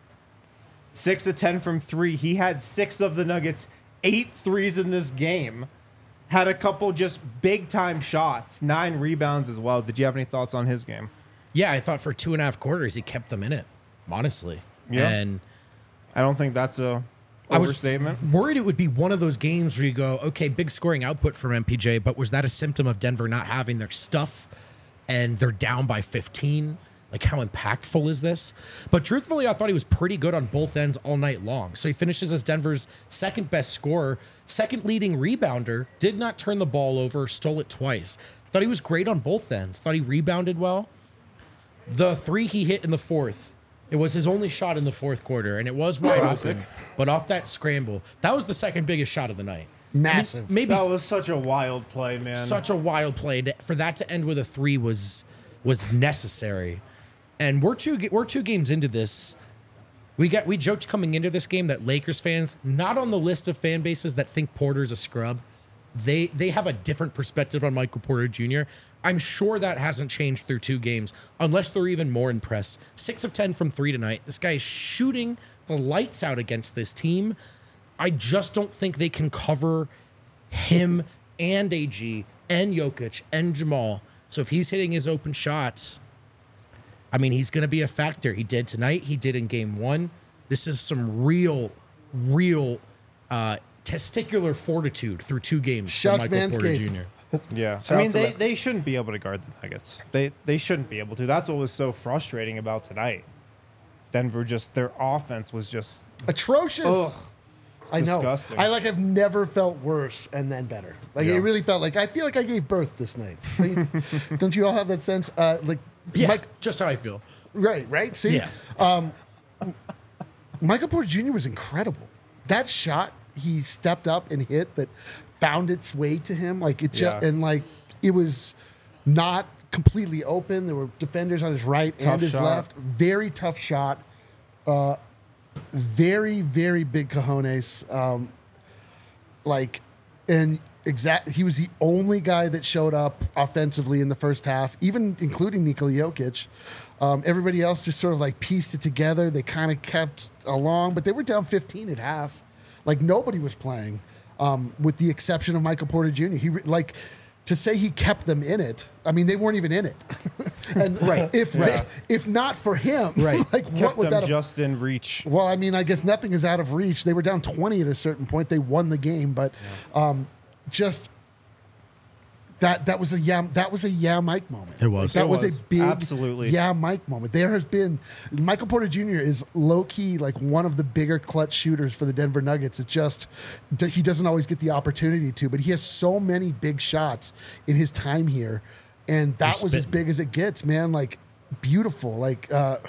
Six to ten from three. He had six of the Nuggets' eight threes in this game. Had a couple just big time shots, nine rebounds as well. Did you have any thoughts on his game? Yeah, I thought for two and a half quarters he kept them in it, honestly. Yeah. And I don't think that's a I was overstatement. worried it would be one of those games where you go, okay, big scoring output from M P J, but was that a symptom of Denver not having their stuff and they're down by fifteen? Like, how impactful is this? But truthfully, I thought he was pretty good on both ends all night long. So he finishes as Denver's second best scorer, second leading rebounder, did not turn the ball over, stole it twice. Thought he was great on both ends. Thought he rebounded well. The three he hit in the fourth, it was his only shot in the fourth quarter, and it was wide Classic. open. But off that scramble, that was the second biggest shot of the night. Massive. Maybe That was such a wild play, man. such a wild play to, for that to end with a three was was necessary. And we're two we're two games into this. We got we joked coming into this game that Lakers fans, not on the list of fan bases that think Porter's a scrub, they they have a different perspective on Michael Porter Junior I'm sure that hasn't changed through two games, unless they're even more impressed. Six of ten from three tonight. This guy is shooting the lights out against this team. I just don't think they can cover him and A G and Jokic and Jamal. So if he's hitting his open shots, I mean, he's going to be a factor. He did tonight. He did in game one. This is some real, real uh, testicular fortitude through two games Shouts for Michael Porter Manscaped. Junior Yeah, Shout I out mean to they, Les- they shouldn't be able to guard the Nuggets. They they shouldn't be able to. That's what was so frustrating about tonight. Denver just their offense was just Atrocious. Ugh. I know. disgusting. I like have never felt worse and then better. Like Yeah. it really felt like I feel like I gave birth this night. Like, don't you all have that sense? Uh, like Yeah, Mike, just how I feel. right, right. See, Yeah. Michael Porter Junior was incredible. That shot he stepped up and hit that found its way to him. Like it just Yeah. and like it was not completely open. There were defenders on his right Tough and his shot. left. Very tough shot. Uh, very very big cojones. Um, like and exact. He was the only guy that showed up offensively in the first half, even including Nikola Jokic. Um, everybody else just sort of like pieced it together. They kind of kept along, but they were down fifteen at half. Like nobody was playing, um, with the exception of Michael Porter Junior He re- like to say he kept them in it. I mean, they weren't even in it. and Right. if Right. They, if not for him, Right. like what kept would them that have just in reach. well, I mean, I guess nothing is out of reach. They were down twenty at a certain point. They won the game, but um, just that that was a yeah that was a yeah Mike moment. It was. That It was, was. a big Absolutely. yeah Mike moment. There has been Michael Porter Junior is low key like one of the bigger clutch shooters for the Denver Nuggets. It's just d- he doesn't always get the opportunity to, but he has so many big shots in his time here, and that He's was as spitting. big as it gets, man. Like beautiful, like. uh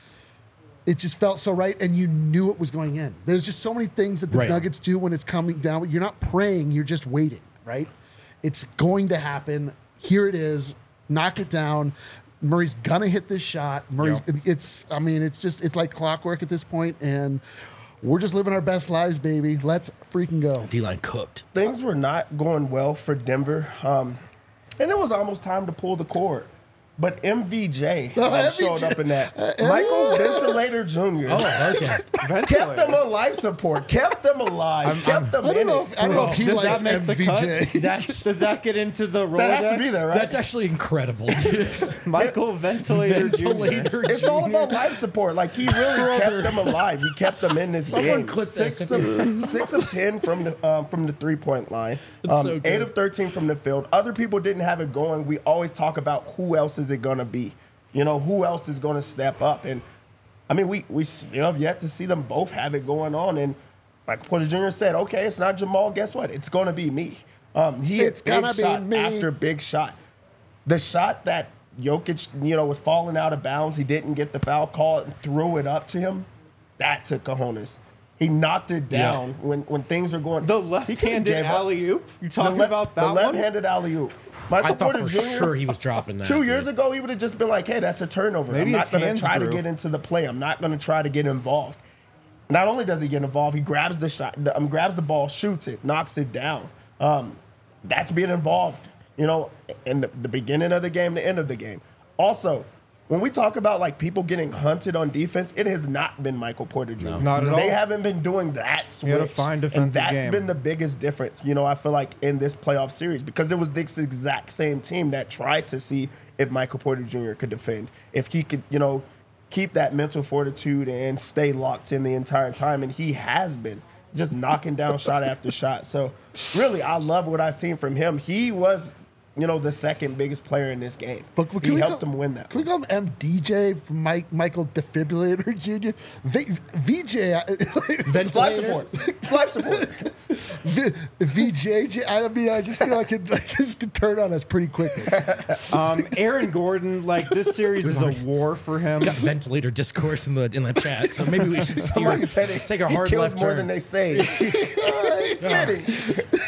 it just felt so right, and you knew it was going in. There's just so many things that the Right. Nuggets do when it's coming down. You're not praying, you're just waiting, right? It's going to happen. Here it is. Knock it down. Murray's gonna hit this shot. Murray, Yeah. it's. I mean, it's just. It's like clockwork at this point, and we're just living our best lives, baby. Let's freaking go. D-line cooked. Things were not going well for Denver, um, and it was almost time to pull the cord. But M V J Oh, um, M V J. showed up in that. Michael Ventilator Junior Oh, okay. kept them on life support, kept them alive, kept them I don't in know it. if I don't know if he Does likes that make M the V J. cut? That's Does that get into the Rolodex? That has to be there, right? that's actually incredible, dude. Michael Ventilator, Junior Ventilator It's all Junior. about life support. Like he really kept them alive. He kept them in this Someone game. clip Six this. of, six of ten from the um, from the three point line. That's Um, so good. Eight of thirteen from the field. Other people didn't have it going. We always talk about who else is it gonna be. You know, who else is gonna step up? And I mean, we we still have yet to see them both have it going on. And like Porter Junior said, okay, it's not Jamal. Guess what? It's gonna be me. Um, he It's hit big gonna be shot me. after big shot. The shot that Jokic, you know, was falling out of bounds. He didn't get the foul call and threw it up to him. That took cojones. He knocked it down when, when things were going. The he could've left-handed gave up. alley oop. You talking The le- about that the one? left-handed alley oop. Michael I thought Porter for Junior sure he was dropping that. Two dude. years ago, he would have just been like, "Hey, that's a turnover. Maybe I'm his not going hands to try grew. to get into the play. I'm not going to try to get involved." Not only does he get involved, he grabs the shot, the, um, grabs the ball, shoots it, knocks it down. Um, that's being involved, you know, in the, the beginning of the game, the end of the game. Also, when we talk about like people getting hunted on defense, it has not been Michael Porter Junior Not at They all. haven't been doing that switch. gotta find and defensive that's game. been the biggest difference, you know, I feel like in this playoff series because it was this exact same team that tried to see if Michael Porter Junior could defend, if he could, you know, keep that mental fortitude and stay locked in the entire time. And he has been just knocking down shot after shot. So really, I love what I've seen from him. He was, you know, the second biggest player in this game. But can he we helped call- him win that. Can we call him M D J from Mike Michael Defibrillator Junior? V, VJ, Life Ventilator. support. It's life support. v, VJ. I mean, I just feel like it like this could turn on us pretty quickly. Um, Aaron Gordon, like this series is a war for him. Got ventilator discourse in the in the chat, so maybe we should steer, Somebody said it. take a He hard kills left more turn. than they say. Uh, it's fitting.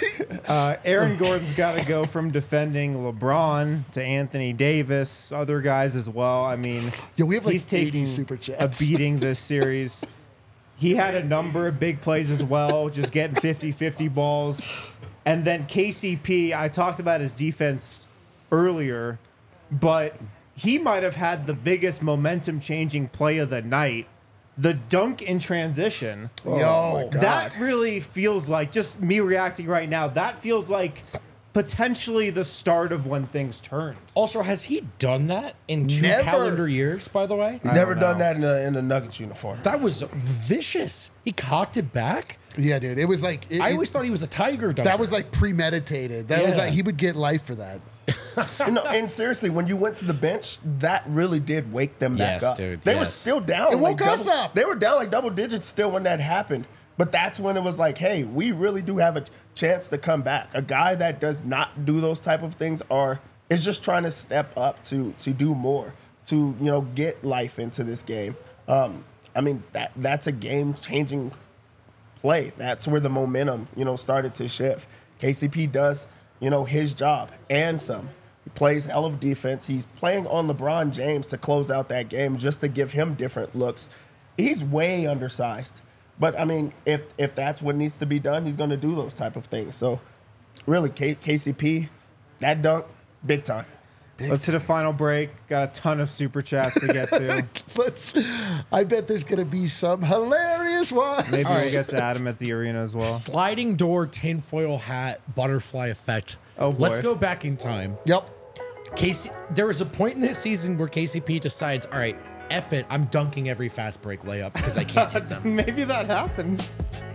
Uh, Aaron Gordon's got to go from defending LeBron to Anthony Davis, other guys as well. I mean, Yo, we have like he's taking super a chats. beating this series. He had a number of big plays as well, just getting fifty-fifty balls. And then K C P, I talked about his defense earlier, but he might have had the biggest momentum-changing play of the night. The dunk in transition. Yo, That really feels like, just me reacting right now, that feels like potentially the start of when things turned. Also, has he done that in two Never. calendar years, by the way? He's I never don't done know. that in a, in a Nuggets uniform. That was vicious. He cocked it back. yeah, dude. It was like it, I it- always thought he was a tiger dunker. that was like premeditated. That was Yeah. like he would get life for that. You know, and seriously, when you went to the bench, that really did wake them back Yes, up. dude, They were yes. still down. It woke like us double- up. They were down like double digits still when that happened. But that's when it was like, hey, we really do have a chance to come back. A guy that does not do those type of things are is just trying to step up to to do more, to you know get life into this game. Um, I mean that that's a game changing play. That's where the momentum, you know, started to shift. K C P does, you know, his job and some. He plays hell of defense. He's playing on LeBron James to close out that game just to give him different looks. He's way undersized. But I mean, if if that's what needs to be done, he's going to do those type of things. So really K- KCP, that dunk, big time. Let's hit a final break. Got a ton of super chats to get to. Let's. I bet there's gonna be some hilarious one. Maybe All we'll right. get to Adam at the arena as well. sliding door, tinfoil hat, butterfly effect. Oh, boy. Let's go back in time. Yep. K C, there was a point in this season where K C P decides, all right, F it, I'm dunking every fast break layup because I can't hit them. Maybe that happens.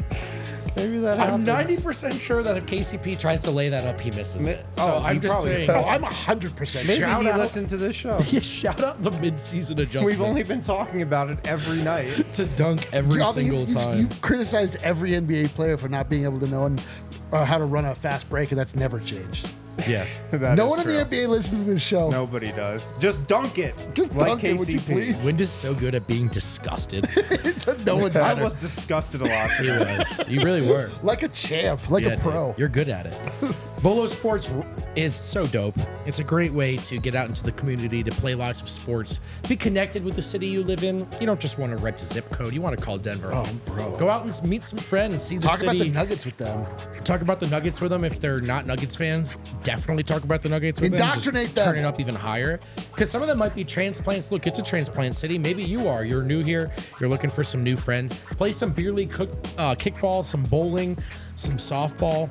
Maybe that I'm happens. ninety percent sure that if K C P tries to lay that up, he misses it. So oh, I'm he just probably saying. Oh, I'm hundred percent. Maybe Shout he out- listened to this show. Yeah, shout out the mid-season adjustment. We've only been talking about it every night. to dunk every Although single you've, you've- time. You've criticized every N B A player for not being able to know and, uh, how to run a fast break, and that's never changed. yeah. That no is one in true. the N B A listens to this show. Nobody does. Just dunk it. Just like dunk it, would you K C P. please? Wind is so good at being disgusted. no one I matters. was disgusted a lot. He was. You really were. Like a champ, like Yeah, a pro. dude, you're good at it. Volo Sports is so dope. It's a great way to get out into the community, to play lots of sports, be connected with the city you live in. You don't just want to rent a zip code. You want to call Denver home. bro. Go out and meet some friends, see the Talk city. about the Nuggets with them. Talk about the Nuggets with them. If they're not Nuggets fans, definitely talk about the Nuggets with Indoctrinate them. Just them. Turn it up even higher. Because some of them might be transplants. Look, it's a transplant city. Maybe you are. You're new here. You're looking for some new friends. Play some beer league cook, uh, kickball, some bowling, some softball.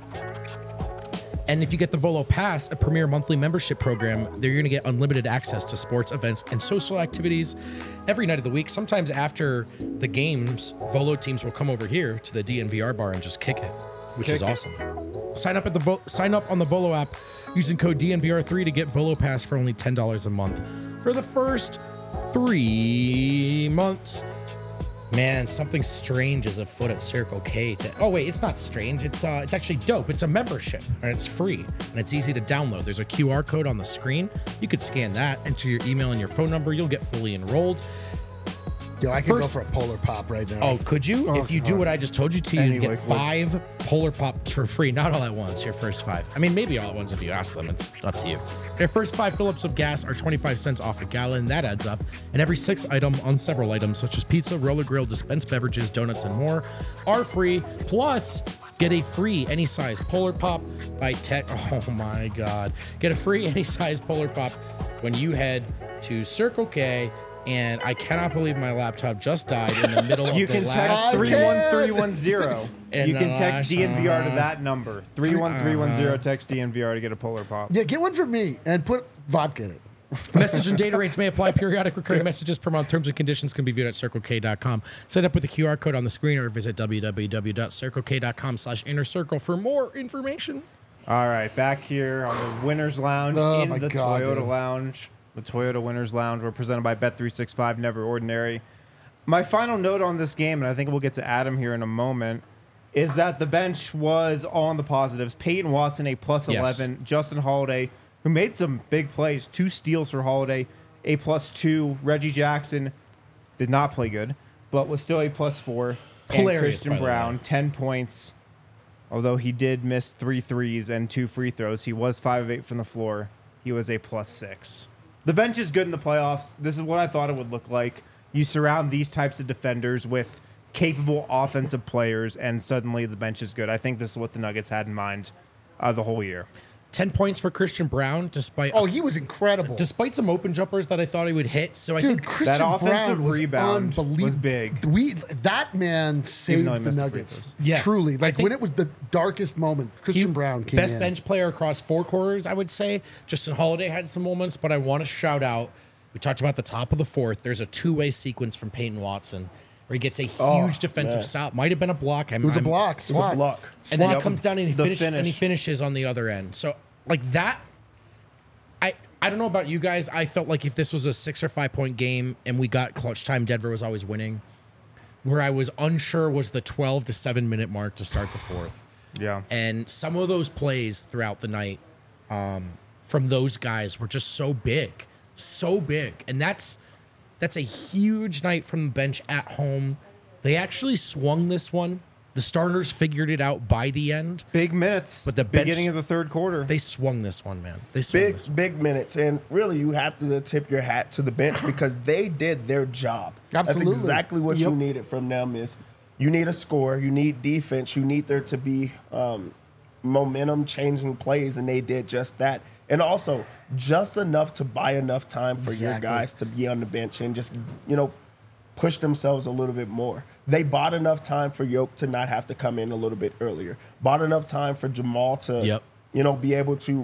And if you get the Volo Pass, a premier monthly membership program, you're going to get unlimited access to sports events and social activities every night of the week. Sometimes after the games, Volo teams will come over here to the D N V R bar and just kick it, which Kick is it. awesome. Sign up at the Vo- sign up on the Volo app using code D N V R three to get Volo Pass for only ten dollars a month for the first three months. Man, something strange is afoot at Circle K. To, oh wait, it's not strange. It's uh, it's actually dope. It's a membership and it's free and it's easy to download. There's a Q R code on the screen. You could scan that, enter your email and your phone number. You'll get fully enrolled. Yo, I could go First- for a polar pop right now. Oh, could you? if you do what I just told you to, you Any get liquid. five Polar Pops for free. Not all at once, your first five. I mean, maybe all at once if you ask them. It's up to you. Your first five fill-ups of gas are twenty-five cents off a gallon. That adds up. And every six item on several items, such as pizza, roller grill, dispensed beverages, donuts, and more, are free. Plus, get a free any size Polar Pop by Tech. Oh my God. Get a free any size Polar Pop when you head to Circle K. And I cannot believe my laptop just died in the middle of You the can last. text I three one three one zero. And You can the text last- D N V R to that number. three one three one zero. Uh-huh. Text D N V R to get a Polar Pop. Yeah, get one for me and put vodka in it. Message and data rates may apply. Periodic recurring messages per month. Terms and conditions can be viewed at circle k dot com. Set up with the Q R code on the screen or visit w w w dot circle k dot com slash inner circle for more information. All right, back here on the Winners Lounge Oh in my the God, Toyota dude. Lounge. The Toyota Winners Lounge. We're presented by Bet three sixty-five, Never Ordinary. My final note on this game, and I think we'll get to Adam here in a moment, is that the bench was all on the positives. Peyton Watson, a plus Yes. eleven. Justin Holiday, who made some big plays, two steals for Holiday, a plus two. Reggie Jackson did not play good, but was still a plus four. And Hilarious, Christian by the Brown, way. ten points. Although he did miss three threes and two free throws, he was five of eight from the floor. He was a plus six. The bench is good in the playoffs. This is what I thought it would look like. You surround these types of defenders with capable offensive players, and suddenly the bench is good. I think this is what the Nuggets had in mind uh, the whole year. ten points for Christian Brown, despite Oh, he was incredible. despite some open jumpers that I thought he would hit. So I Dude, think Christian that offensive Brown was rebound unbelievable. was big. We that man saved though he the missed the free Nuggets. throws. Yeah. Truly. I Like think- when it was the darkest moment, he- Christian Brown came best in. bench player across four quarters, I would say. Justin Holiday had some moments, but I want to shout out. We talked about the top of the fourth. There's a two-way sequence from Peyton Watson where he gets a huge Oh, defensive man. stop. Might have been a block. I'm, It was a I'm- block. It was a Swat. block. And then he Yep. comes down and he, The finish, and he finish. finishes on the other end. So like that, I I don't know about you guys. I felt like if this was a six or five point game and we got clutch time, Denver was always winning. Where I was unsure was the twelve to seven minute mark to start the fourth. Yeah. And some of those plays throughout the night um, from those guys were just so big, so big. And that's that's a huge night from the bench at home. They actually swung this one. The starters figured it out by the end. Big minutes. But the bench- beginning of the third quarter. They swung this one, man. They swung Big, this one. big minutes. And really, you have to tip your hat to the bench because they did their job. Absolutely. That's exactly what you Yep. needed from them is you need a score, you need defense, you need there to be um, momentum changing plays, and they did just that. And also, just enough to buy enough time for your Exactly. guys to be on the bench and just, you know, push themselves a little bit more. They bought enough time for Yoke to not have to come in a little bit earlier. Bought enough time for Jamal to, Yep. you know, be able to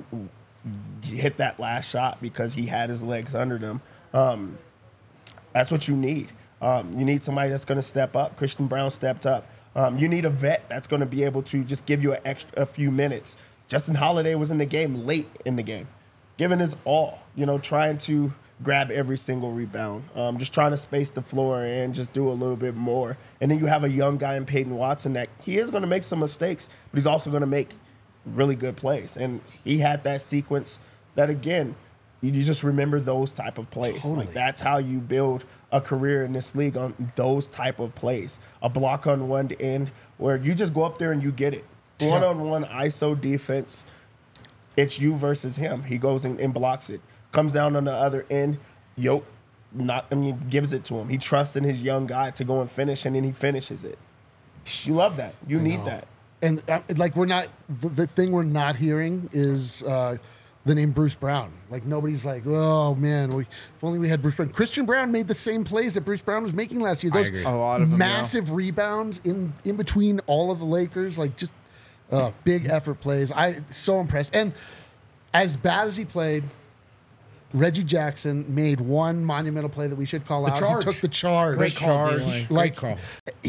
hit that last shot because he had his legs under them. Um, that's what you need. Um, you need somebody that's going to step up. Christian Brown stepped up. Um, you need a vet that's going to be able to just give you an extra a few minutes. Justin Holiday was in the game late in the game, giving his all, you know, trying to grab every single rebound, um, just trying to space the floor and just do a little bit more. And then you have a young guy in Peyton Watson that he is going to make some mistakes, but he's also going to make really good plays. And he had that sequence that, again, you you just remember those type of plays. Totally. Like that's how you build a career in this league, on those type of plays. A block on one end where you just go up there and you get it. One-on-one I S O defense, it's you versus him. He goes in and blocks it. Comes down on the other end, Yoke not I mean gives it to him. He trusts in his young guy to go and finish, and then he finishes it. You love that. You need that. And uh, like we're not the, the thing we're not hearing is uh, the name Bruce Brown. Like nobody's like, oh man, we, if only we had Bruce Brown. Christian Brown made the same plays that Bruce Brown was making last year. Those agree. A lot of them, yeah. massive rebounds in in between all of the Lakers, like just uh, big effort plays. I so impressed. And as bad as he played, Reggie Jackson made one monumental play that we should call The out. charge. He took the charge. Great call, D-Line. Great Like call.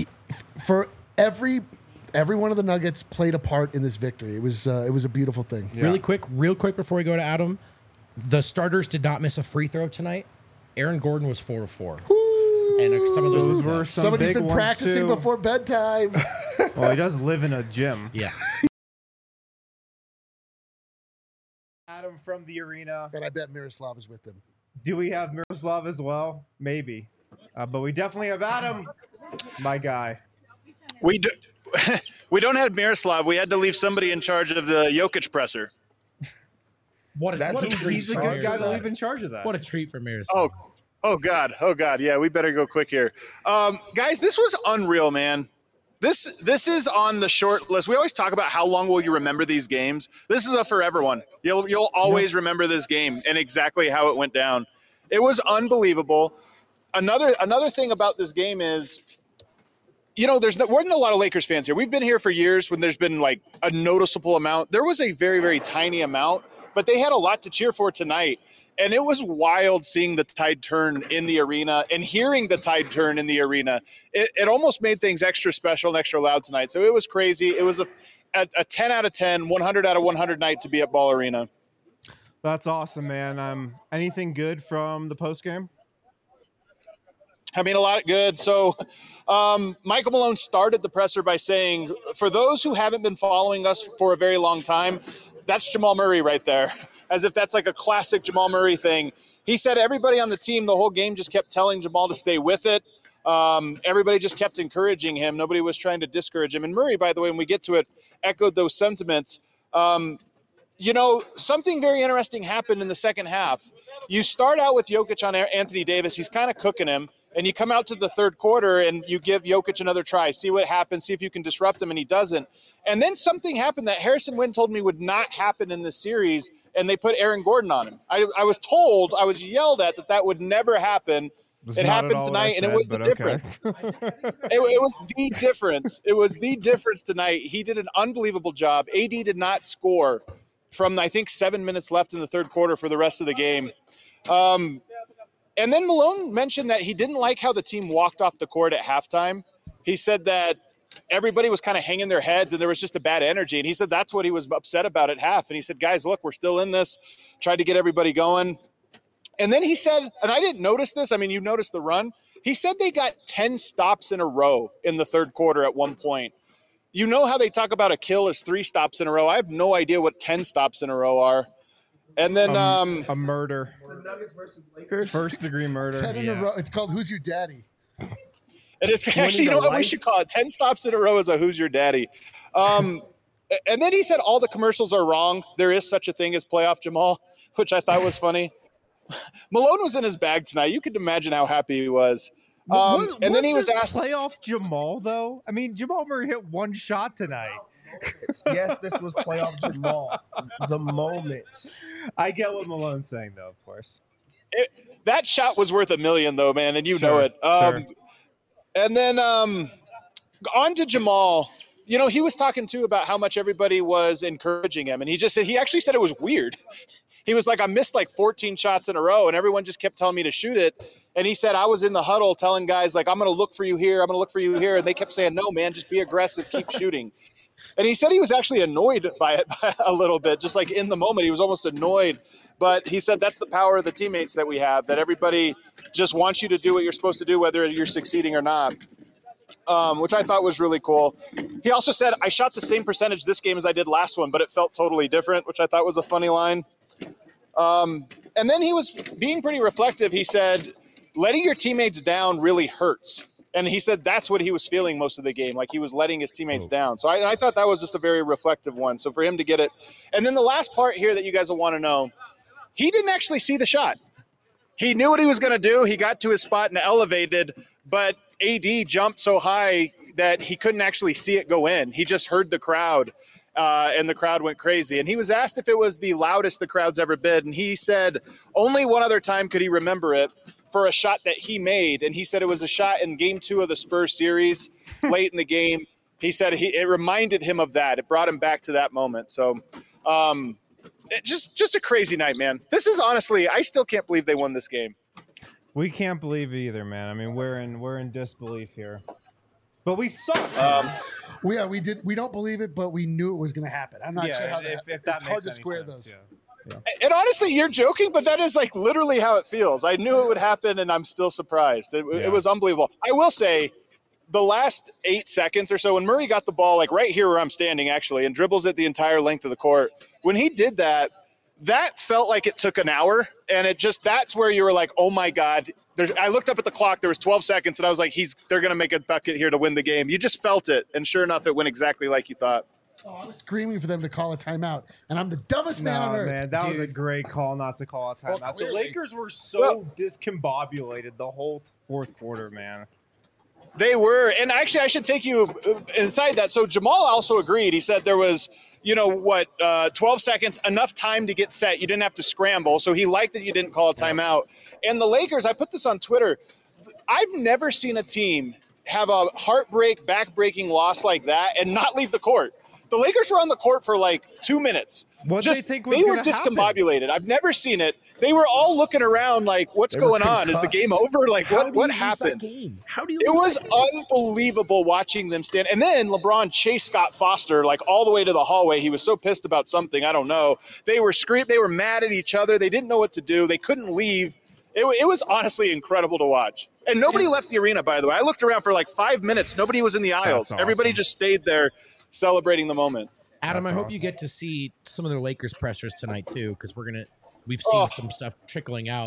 for every every one of the Nuggets played a part in this victory. It was uh, it was a beautiful thing. Yeah. Really quick, real quick before we go to Adam, the starters did not miss a free throw tonight. Aaron Gordon was four of four. And uh, some of those, Those were some Somebody's big been ones, practicing too. before bedtime. Well, he does live in a gym. yeah. Adam from the arena. And I bet Miroslav is with them. Do we have Miroslav as well? Maybe. Uh, but we definitely have Adam, my guy. We do, we don't have Miroslav. We had to leave somebody in charge of the Jokic presser. What a, That's what a he's- treat He's a for good guy to Miroslav. leave in charge of that. What a treat for Miroslav. Oh, oh God, oh God. Yeah, we better go quick here, um, guys. This was unreal, man. This this is on the short list. We always talk about how long will you remember these games. This is a forever one. You'll you'll always remember this game and exactly how it went down. It was unbelievable. Another another thing about this game is, you know, there's no, wasn't a lot of Lakers fans here. We've been here for years when there's been like a noticeable amount. There was a very, very tiny amount, but they had a lot to cheer for tonight. And it was wild seeing the tide turn in the arena and hearing the tide turn in the arena. It, it almost made things extra special and extra loud tonight. So it was crazy. It was a, a, a ten out of ten, one hundred out of one hundred night to be at Ball Arena. That's awesome, man. Um, anything good from the post game? I mean, a lot good. So um, Michael Malone started the presser by saying, for those who haven't been following us for a very long time, that's Jamal Murray right there, as if that's like a classic Jamal Murray thing. He said everybody on the team the whole game just kept telling Jamal to stay with it. Um, everybody just kept encouraging him. Nobody was trying to discourage him. And Murray, by the way, when we get to it, echoed those sentiments. Um, you know, something very interesting happened in the second half. You start out with Jokic on Anthony Davis. He's kind of cooking him. And you come out to the third quarter and you give Jokic another try, see what happens, see if you can disrupt him, and he doesn't. And then something happened that Harrison Wind told me would not happen in this series, and they put Aaron Gordon on him. I, I was told, I was yelled at that that would never happen. That's it happened tonight, said, and it was the okay. difference. it, it was the difference. It was the difference tonight. He did an unbelievable job. A D did not score from, I think, seven minutes left in the third quarter for the rest of the game. Um, and then Malone mentioned that he didn't like how the team walked off the court at halftime. He said that everybody was kind of hanging their heads and there was just a bad energy. And he said that's what he was upset about at half. And he said, guys, look, we're still in this. Tried to get everybody going. And then he said, and I didn't notice this. I mean, you noticed the run. He said they got ten stops in a row in the third quarter at one point. You know how they talk about a kill as three stops in a row. I have no idea what ten stops in a row are. And then um, um, a murder. First degree murder. ten in yeah. a row. It's called Who's Your Daddy? It is actually, you know what life? we should call it? ten stops in a row is a Who's Your Daddy. Um, and then he said all the commercials are wrong. There is such a thing as playoff Jamal, which I thought was funny. Malone was in his bag tonight. You could imagine how happy he was. Um, was and then was he was asked playoff Jamal, though. I mean, Jamal Murray hit one shot tonight. Yes, this was playoff Jamal. The moment. I get what Malone's saying, though, of course. It, that shot was worth a million, though, man, and you sure, know it. Um, sure. And then um, on to Jamal. You know, he was talking, too, about how much everybody was encouraging him. And he just said, he actually said it was weird. He was like, I missed like fourteen shots in a row, and everyone just kept telling me to shoot it. And he said, I was in the huddle telling guys, like, I'm going to look for you here. I'm going to look for you here. And they kept saying, no, man, just be aggressive. Keep shooting. And he said he was actually annoyed by it a little bit, just like in the moment. He was almost annoyed. But he said that's the power of the teammates that we have, that everybody just wants you to do what you're supposed to do, whether you're succeeding or not, um, which I thought was really cool. He also said, I shot the same percentage this game as I did last one, but it felt totally different, which I thought was a funny line. Um, and then he was being pretty reflective. He said, letting your teammates down really hurts. And he said that's what he was feeling most of the game, like he was letting his teammates oh. down. So I, I thought that was just a very reflective one. So for him to get it. And then the last part here that you guys will want to know, he didn't actually see the shot. He knew what he was going to do. He got to his spot and elevated, but A D jumped so high that he couldn't actually see it go in. He just heard the crowd. Uh, and the crowd went crazy. And he was asked if it was the loudest the crowd's ever been. And he said only one other time could he remember it for a shot that he made. And he said it was a shot in game two of the Spurs series late in the game. He said he, it reminded him of that. It brought him back to that moment. So um, it just, just a crazy night, man. This is honestly, I still can't believe they won this game. We can't believe it either, man. I mean, we're in, we're in disbelief here. But we suck. Um, we, yeah, we did. We don't believe it, but we knew it was going to happen. I'm not yeah, sure how if, that. If that it's makes hard to any square sense, those. Yeah. Yeah. And honestly, you're joking, but that is like literally how it feels. I knew it would happen, and I'm still surprised. It, Yeah. it was unbelievable. I will say, the last eight seconds or so, when Murray got the ball, like right here where I'm standing, actually, and dribbles it the entire length of the court, when he did that, that felt like it took an hour, and it just that's where you were like, oh my God. There's, I looked up at the clock. There was twelve seconds, and I was like, "He's they're going to make a bucket here to win the game." You just felt it, and sure enough, it went exactly like you thought. Oh, I was screaming for them to call a timeout, and I'm the dumbest man No, on earth. man, that Dude. was a great call not to call a timeout. Well, the clearly. Lakers were so Well- discombobulated the whole fourth quarter, man. They were, and actually, I should take you inside that. So Jamal also agreed. He said there was, you know, what, uh, twelve seconds, enough time to get set. You didn't have to scramble. So he liked that you didn't call a timeout. And the Lakers, I put this on Twitter. I've never seen a team have a heartbreak, back-breaking loss like that and not leave the court. The Lakers were on the court for like two minutes. What Just, they think was they were gonna happen? discombobulated. I've never seen it. They were all looking around like, what's They were going on? Is the game over? Like, How what, do what you lose that happened? game? How do you It lose was that game? unbelievable watching them stand. And then LeBron chased Scott Foster like all the way to the hallway. He was so pissed about something. I don't know. They were screaming. They were mad at each other. They didn't know what to do. They couldn't leave. It, it was honestly incredible to watch. And nobody left the arena, by the way. I looked around for like five minutes. Nobody was in the aisles. awesome. Everybody just stayed there celebrating the moment. Adam, That's I hope you awesome. get to see some of the Lakers pressers tonight too, because we're gonna we've seen Oh. some stuff trickling out.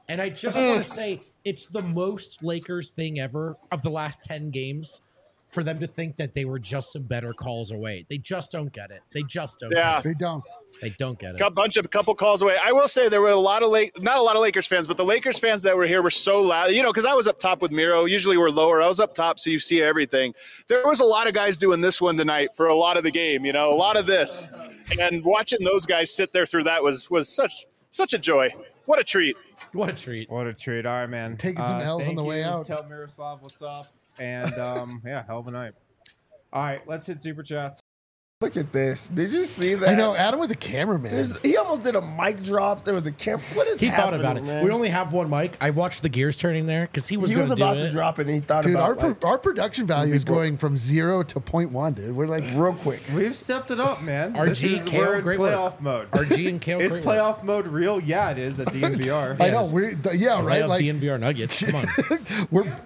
And I just want to say it's the most Lakers thing ever of the last ten games for them to think that they were just some better calls away. They just don't get it. They just don't Yeah. get it. They don't. They don't get it. A bunch of couple calls away. I will say there were a lot of Lake, not a lot of Lakers fans, but the Lakers fans that were here were so loud. You know, because I was up top with Miro. Usually we're lower. I was up top, so you see everything. There was a lot of guys doing this one tonight for a lot of the game. You know, a lot of this, and watching those guys sit there through that was was such such a joy. What a treat. What a treat. What a treat. All right, man. Taking some L's on thank the way you. out. Tell Miroslav what's up. And um, yeah, hell of a night. All right, let's hit super chats. Look at this. Did you see that? I know Adam with the cameraman. There's, he almost did a mic drop. There was a camera. What is He thought happening, about it. man? We only have one mic. I watched the gears turning there because he was he going was to do about it. to drop it, and he thought Dude, our about pro- like, our production value is broke. going from zero to point one, dude. We're like, real quick. We've stepped it up, man. R G, this is, Kale, we're in great work. playoff mode. R G and Kale. Is great work. playoff mode real? Yeah, it is at D N V R. I know Yes. we're th- yeah Right right up like D N V R Nuggets. Come on. we're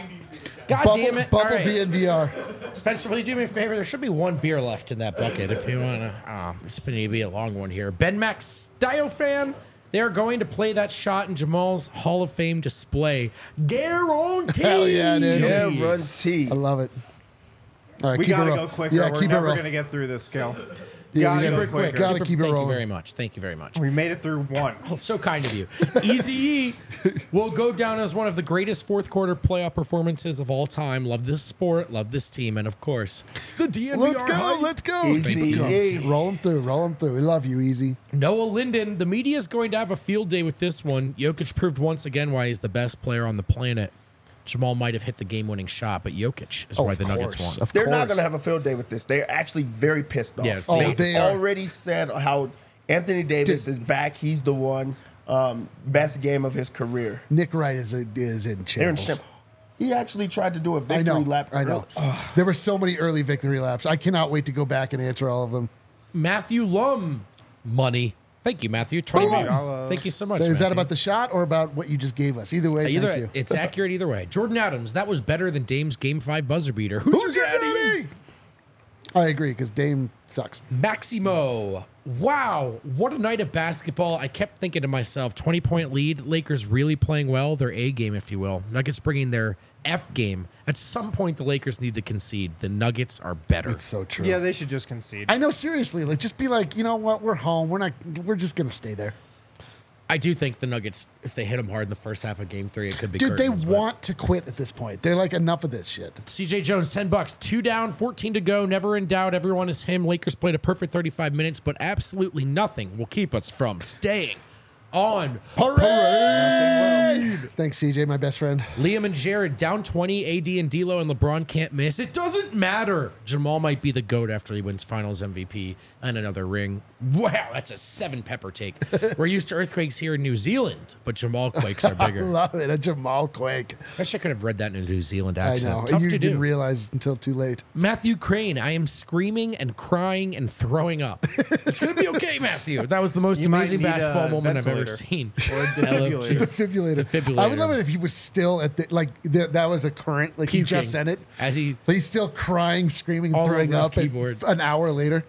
God bubble, damn it. bubble All right. D N V R. Spencer, will you do me a favor? There should be one beer left in that bucket if you want to. Oh, it's going to be a long one here. Ben Max Style fan. They're going to play that shot in Jamal's Hall of Fame display. Guaranteed. Hell yeah, dude. Guarantee. I love it. All right, We keep gotta it go roll. quicker. Yeah, We're keep it never roll. gonna get through this, Kel. Yeah, Gotta we go gotta- quicker. gotta Super- keep it Thank rolling. you very much. Thank you very much. We made it through one. Oh, so kind of you. Easy E will go down as one of the greatest fourth quarter playoff performances of all time. Love this sport, love this team, and of course, the D N V R Let's go, hype. let's go. Easy Go. E. Roll them through, roll them through. We love you, Easy. Noah Linden, the media is going to have a field day with this one. Jokic proved once again why he's the best player on the planet. Jamal might have hit the game-winning shot, but Jokic is Oh, why of the Nuggets course, won. of They're not course. going to have a field day with this. They're actually very pissed off. Yeah, it's- Oh, they, they are. already said how Anthony Davis Dude. is back. He's the one. Um, best game of his career. Nick Wright is a, is in Aaron shambles. Shem- He actually tried to do a I victory know. lap. I know. There were so many early victory laps. I cannot wait to go back and answer all of them. Matthew Lum, money. Thank you, Matthew. twenty Boom. bucks. I'll, uh, Thank you so much. Is that Matthew. about the shot or about what you just gave us? Either way, Either thank you. it's accurate either way. Jordan Adams, that was better than Dame's Game Five buzzer beater. Who's, Who's your your daddy? daddy? I agree because Dame sucks. Maximo. Wow, what a night of basketball. I kept thinking to myself, twenty-point lead, Lakers really playing well, their A game, if you will. Nuggets bringing their F game. At some point, the Lakers need to concede. The Nuggets are better. It's so true. Yeah, they should just concede. I know. Seriously, like just be like, you know what? We're home. We're not. We're just gonna stay there, I do think the Nuggets, if they hit them hard in the first half of game three, it could be dude. They curtains, but- want to quit at this point. They're like, enough of this shit. C J Jones, ten bucks, two down, fourteen to go. Never in doubt. Everyone is him. Lakers played a perfect thirty-five minutes, but absolutely nothing will keep us from staying on parade. Thanks, C J, my best friend. Liam and Jared down twenty. A D and D'Lo and LeBron can't miss. It doesn't matter. Jamal might be the GOAT after he wins Finals M V P and another ring. Wow, that's a seven pepper take. We're used to earthquakes here in New Zealand, but Jamal quakes are I bigger. love it. A Jamal Quake. I wish I could have read that in a New Zealand I accent. know. Tough you to didn't do. realize until too late. Matthew Crane, I am screaming and crying and throwing up. It's going to be okay, Matthew. That was the most You might amazing need a basketball moment I've ever ventilator. seen. Or a I love defibrillator. you. Defibrillator. Defibrillator. I would love it if he was still at the like th- that was a current. Like he Puking just said it. as he But he's still crying, screaming, All throwing over his up. and keyboard. An hour later.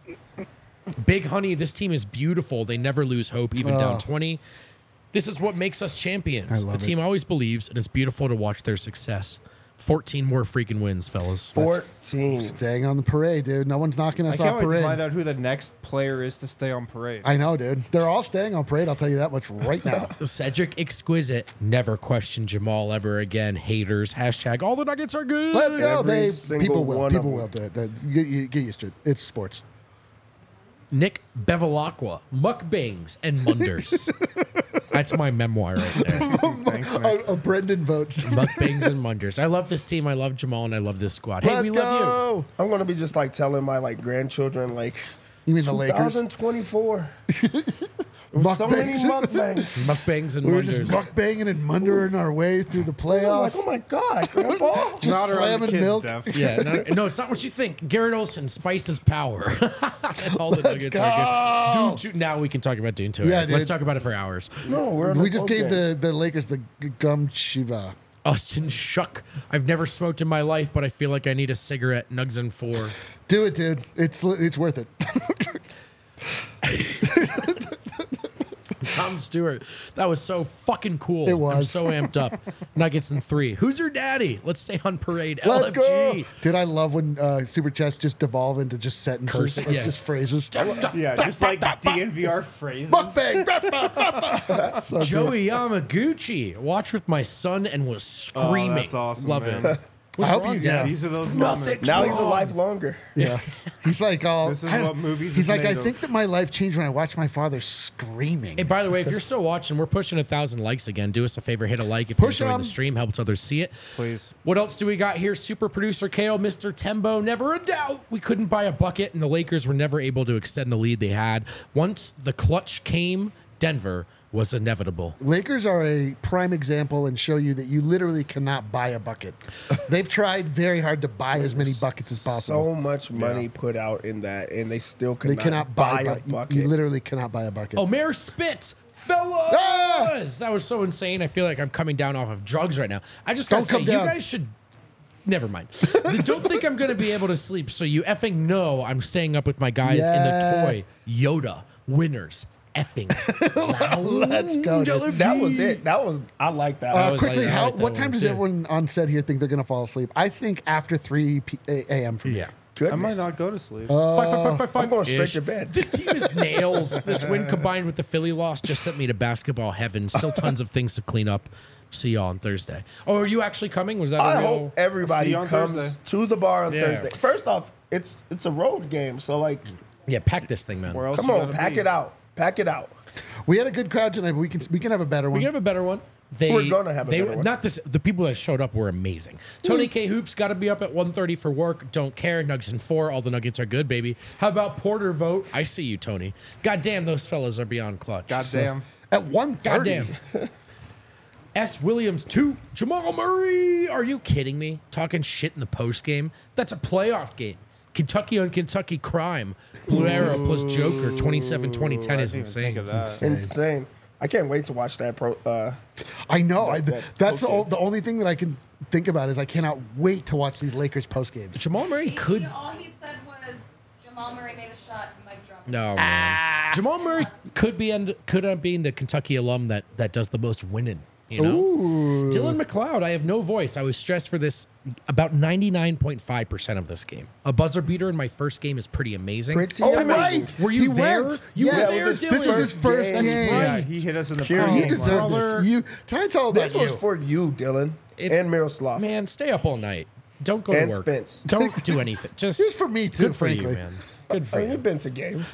Big Honey, this team is beautiful. They never lose hope, even Oh. down twenty. This is what makes us champions. I love The team always believes, and it's beautiful to watch their success. fourteen more freaking wins, fellas. fourteen. Staying on the parade, dude. No one's knocking I us can't off wait to parade. find out who the next player is to stay on parade. I know, dude. They're all staying on parade. I'll tell you that much right now. Cedric Exquisite. Never question Jamal ever again. Haters. Hashtag all the Nuggets are good. Let's go. Every They single people will. one People of will do it. Uh, You, you get used to it. It's sports. Nick Bevilacqua, mukbangs and munders. That's my memoir right there. Thanks, Nick. A, a Brendan votes. Mukbangs and munders. I love this team. I love Jamal, and I love this squad. Hey, Let's we go. love you. I'm gonna be just like telling my like grandchildren like. You mean the Lakers? twenty twenty-four. So many mukbangs. Mukbangs and We were just munders. mukbanging and mundering our way through the I'm like, playoffs. oh my god, Grandpa! Just Not around the slamming kids, milk. Def. Yeah, no, no, it's not what you think. Garrett Olson spices power. And all the Nuggets are good. Dune two, now we can talk about Dune two. Yeah, Let's dude. talk about it for hours. No, we're on We a just boat gave game. the, the Lakers the g- gum shiva. Austin Shuck. I've never smoked in my life, but I feel like I need a cigarette. Nugs and four. Do it, dude. It's it's worth it. Tom Stewart. That was so fucking cool. It was. I'm so amped up. Nuggets in three. Who's your daddy? Let's stay on parade. Let's L F G. go. Dude, I love when uh, super chats just devolve into just sentences, Curse- like yeah. just phrases. Yeah, just like D N V R phrases. Mukbang. Bah, bah, bah, bah. So good. Joey Yamaguchi. Watch with my son and was screaming. Oh, that's awesome, Love man. it. What's I hope wrong, you- Dad? yeah. These are those Nothing. moments. Now he's a life longer. Yeah. He's like, oh, This is I- what movies He's is like, I made of. think that my life changed when I watched my father screaming. Hey, by the way, if you're still watching, we're pushing a thousand likes again. Do us a favor, hit a like if Push you're enjoying 'em. the stream. Helps others see it. Please. What else do we got here? Super producer Kale, Mister Tembo. Never a doubt we couldn't buy a bucket, and the Lakers were never able to extend the lead they had. Once the clutch came, Denver was inevitable. Lakers are a prime example and show you that you literally cannot buy a bucket. They've tried very hard to buy as many buckets as possible. So much money put out in that, and they still they cannot, cannot buy, buy a bu- you- bucket. You literally cannot buy a bucket. Omer Spitz, fellas! Ah! That was so insane. I feel like I'm coming down off of drugs right now. I just gotta Don't say, come you down. guys should. Never mind. Don't think I'm going to be able to sleep, so you effing know I'm staying up with my guys Yeah. in the toy Yoda winners effing. Let's go, dude. Lounge. That was it. That was I like that. Uh, I was quickly, like- I how, like that what time one, does too. everyone on set here think they're going to fall asleep? I think after three a m for me. Yeah. Goodness. I might not go to sleep. Five, five, five, five, five I'm going straight ish. to bed. This team is nails. This win combined with the Philly loss just sent me to basketball heaven. Still tons of things to clean up. See y'all on Thursday. Oh, are you actually coming? Was that a I real? hope everybody See you on comes Thursday. to the bar on Yeah. Thursday. First off, it's it's a road game, so like, Yeah, pack this thing, man. Where else come you on, gotta pack be? it out, pack it out. We had a good crowd tonight, but we can we can have a better We one. can have a better one. They, We're gonna have a they, better one. Not this. The people that showed up were amazing. Tony K Hoops got to be up at one thirty for work. Don't care. Nuggets in four. All the Nuggets are good, baby. How about Porter vote? I see you, Tony. Goddamn, those fellas are beyond clutch. Goddamn. At one thirty. Goddamn. S. Williams two. Jamal Murray. Are you kidding me? Talking shit in the post game. That's a playoff game. Kentucky on Kentucky crime. Blue Arrow plus Joker. twenty-seven twenty ten I is didn't even think insane. of that. Insane. I can't wait to watch that pro. Uh, I know. I, that that's the, post-game. o- the only thing that I can think about is I cannot wait to watch these Lakers post games. Jamal Murray He- could. All he said was Jamal Murray made a shot. Mic drop. No, man. Jamal Murray could be end, could end being the Kentucky alum that that does the most winning. You know, Dylan McLeod. I have no voice. I was stressed for this about ninety-nine point five percent of this game. A buzzer beater in my first game is pretty amazing. Pretty Oh, amazing. right. Were you He there? went. You Yes. were there, This was his- Dylan. This was his first That's game. right. Yeah, he hit us in the Pure prime. You game. deserve brother. this. You, tonight's all about This was you. for you, Dylan, If- and Miroslav. Man, stay up all night. Don't go And to work. Spence. Don't do anything. Just It was for me, too, Good for you, frankly. man. Good for I mean, you. you've been to games.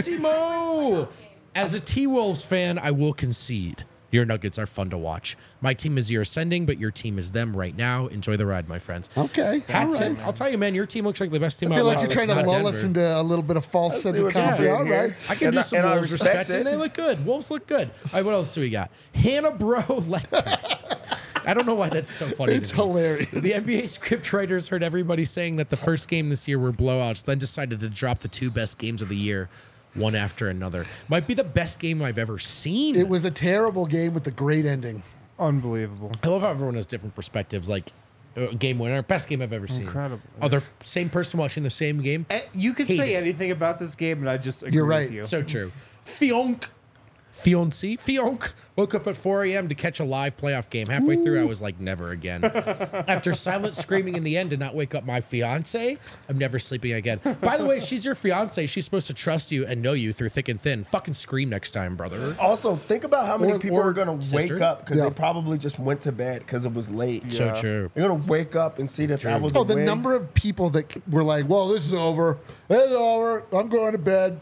Maximo! As a T-Wolves fan, I will concede. Your Nuggets are fun to watch. My team is your ascending, but your team is them right now. Enjoy the ride, my friends. Okay. Hat all tip. right. I'll tell you, man, your team looks like the best team I feel out like there. you're trying to It's lull not us Denver. into a little bit of false I sense see of what you're confidence. doing All here. right. I can And do I- some and I Wolves respect respect, it. and they look good. Wolves look good. All right, what else do we got? Hannah Bro Lecter. I don't know why that's so funny. It's to me. hilarious. The N B A script writers heard everybody saying that the first game this year were blowouts, then decided to drop the two best games of the year, one after another. Might be the best game I've ever seen. It was a terrible game with a great ending. Unbelievable. I love how everyone has different perspectives. Like, uh, game winner, best game I've ever seen. Incredible. Other same person watching the same game. Eh, You could Hate say it. anything about this game, and I just agree You're right. with you. So true. Fionk. Fiancé, Fionk woke up at four a.m. to catch a live playoff game. Halfway through, I was like, never again. After silent screaming in the end to not wake up my fiance, I'm never sleeping again. By the way, she's your fiance. She's supposed to trust you and know you through thick and thin. Fucking scream next time, brother. Also, think about how many Or- people or are going to sister. wake up because Yeah. they probably just went to bed because it was late. So Yeah. true. You're going to wake up and see that that was Oh, a the win. number of people that were like, well, this is over. It's over. I'm going to bed.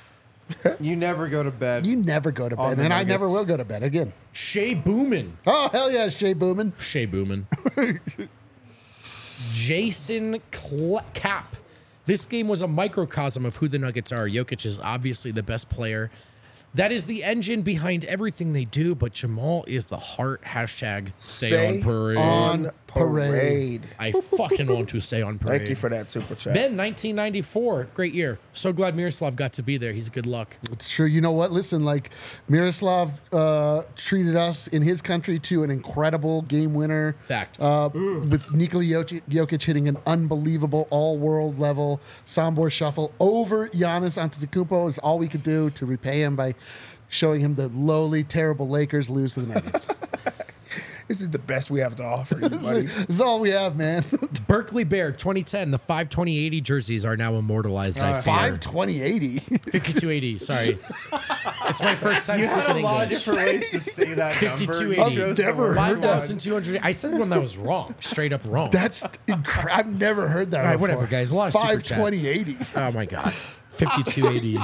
You never go to bed. You never go to On bed. the And I never Nuggets. will go to bed again. Shea Boomin. Oh, hell yeah, Shea Boomin. Shea Boomin. Jason Cl- Cap. This game was a microcosm of who the Nuggets are. Jokic is obviously the best player. That is the engine behind everything they do, but Jamal is the heart. Hashtag stay, Stay on parade. on parade. parade. I fucking want to stay on parade. Thank you for that super chat. Ben, nineteen ninety-four. Great year. So glad Miroslav got to be there. He's good luck. It's true. You know what? Listen, like Miroslav uh, treated us in his country to an incredible game winner. Fact. Uh, with Nikola Jokic, Jokic hitting an unbelievable all-world level Sombor shuffle over Giannis Antetokounmpo is all we could do to repay him by showing him the lowly, terrible Lakers lose to the Nuggets. This is the best we have to offer you, this, buddy. is, this is all we have, man. Berkeley Bear twenty ten. The five twenty eighty jerseys are now immortalized. I fear. five twenty eighty. fifty-two eighty. Sorry, it's my first time. You had a speaking lot of English. different ways to say that number. fifty-two You eighty. chose I've the never worst heard Five one. that. thousand two hundred. I said one that was wrong, straight up wrong. That's incredible. I've never heard that. All right, before. whatever, guys. A lot of super five chats. twenty eighty. Oh my god, fifty-two eighty.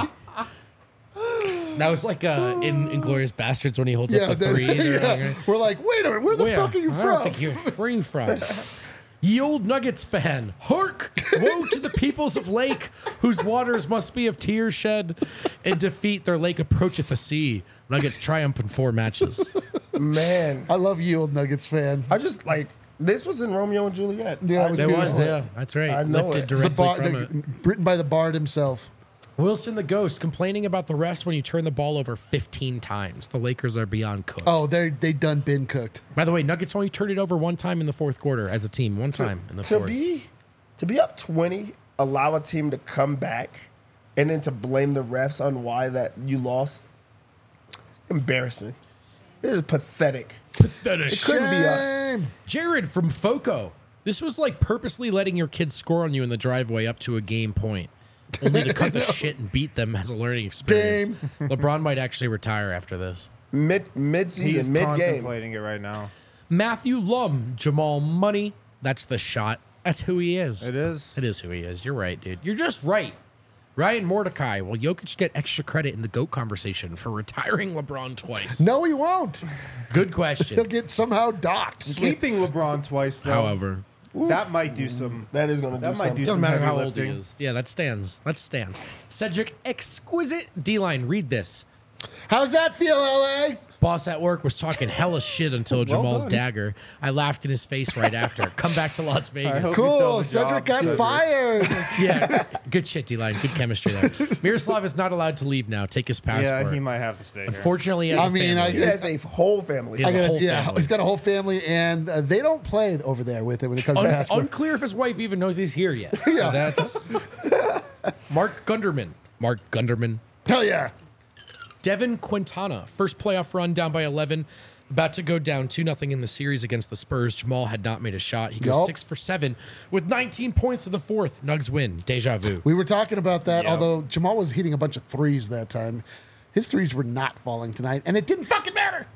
That was like uh, in Inglorious Bastards when he holds Yeah, up the the- three. They're yeah. like, We're like, wait a minute, where the "Where? fuck are you I don't from? think you're- where are you from? Ye old Nuggets fan, hark! Woe to the peoples of Lake, whose waters must be of tears shed. In defeat, their lake approacheth the sea. Nuggets triumph in four matches. Man, I love you, old Nuggets fan. I just like this was in Romeo and Juliet. Yeah, I it was There know was, it. yeah, that's right. I know Lifted it. The directly bar, from the- it. written by the Bard himself. Wilson the Ghost complaining about the refs when you turn the ball over fifteen times. The Lakers are beyond cooked. Oh, they they done been cooked. By the way, Nuggets only turned it over one time in the fourth quarter as a team. One time in the To fourth. be to be up twenty, allow a team to come back, and then to blame the refs on why that you lost. Embarrassing. It is pathetic. Pathetic. It couldn't be us. Shame. Jared from Foco. This was like purposely letting your kids score on you in the driveway up to a game point, only to cut the shit and beat them as a learning experience. LeBron might actually retire after this. Mid mid He's season, mid game. contemplating it right now. Matthew Lum, Jamal Money. That's the shot. That's who he is. It is. It is who he is. You're right, dude. You're just right. Ryan Mordecai. Will Jokic get extra credit in the GOAT conversation for retiring LeBron twice? No, he won't. Good He'll question. get somehow docked. Sweeping LeBron twice, though. However, that might do some. That is going to do That might something. do doesn't some matter heavy how old he lifting. is. Yeah, that stands. That stands. Cedric, exquisite D-line. Read this. How's that feel, L A? Boss at work was talking hella shit until Jamal's done. dagger. I laughed in his face right after. Come back to Las I Vegas. hope- You still Cool. have a Cedric job, got Cedric. fired. Yeah, good shit, D-line. Good chemistry there. Miroslav is not allowed to leave now. Take his passport. Yeah, he might have to stay here. Unfortunately, he has I a mean, family. He has a whole family. He has I a gotta- whole yeah, family. he's got a whole family, and uh, they don't play over there with it when it comes to Un- passport. unclear if his wife even knows he's here yet. So Yeah. that's Mark Gunderman. Mark Gunderman. Hell yeah. Devin Quintana, first playoff run down by eleven, about to go down two nothing in the series against the Spurs. Jamal had not made a shot. He goes Yup. six for seven with nineteen points to the fourth. Nugs win. Deja vu. We were talking about that, Yeah. although Jamal was hitting a bunch of threes that time. His threes were not falling tonight, and it didn't fucking matter.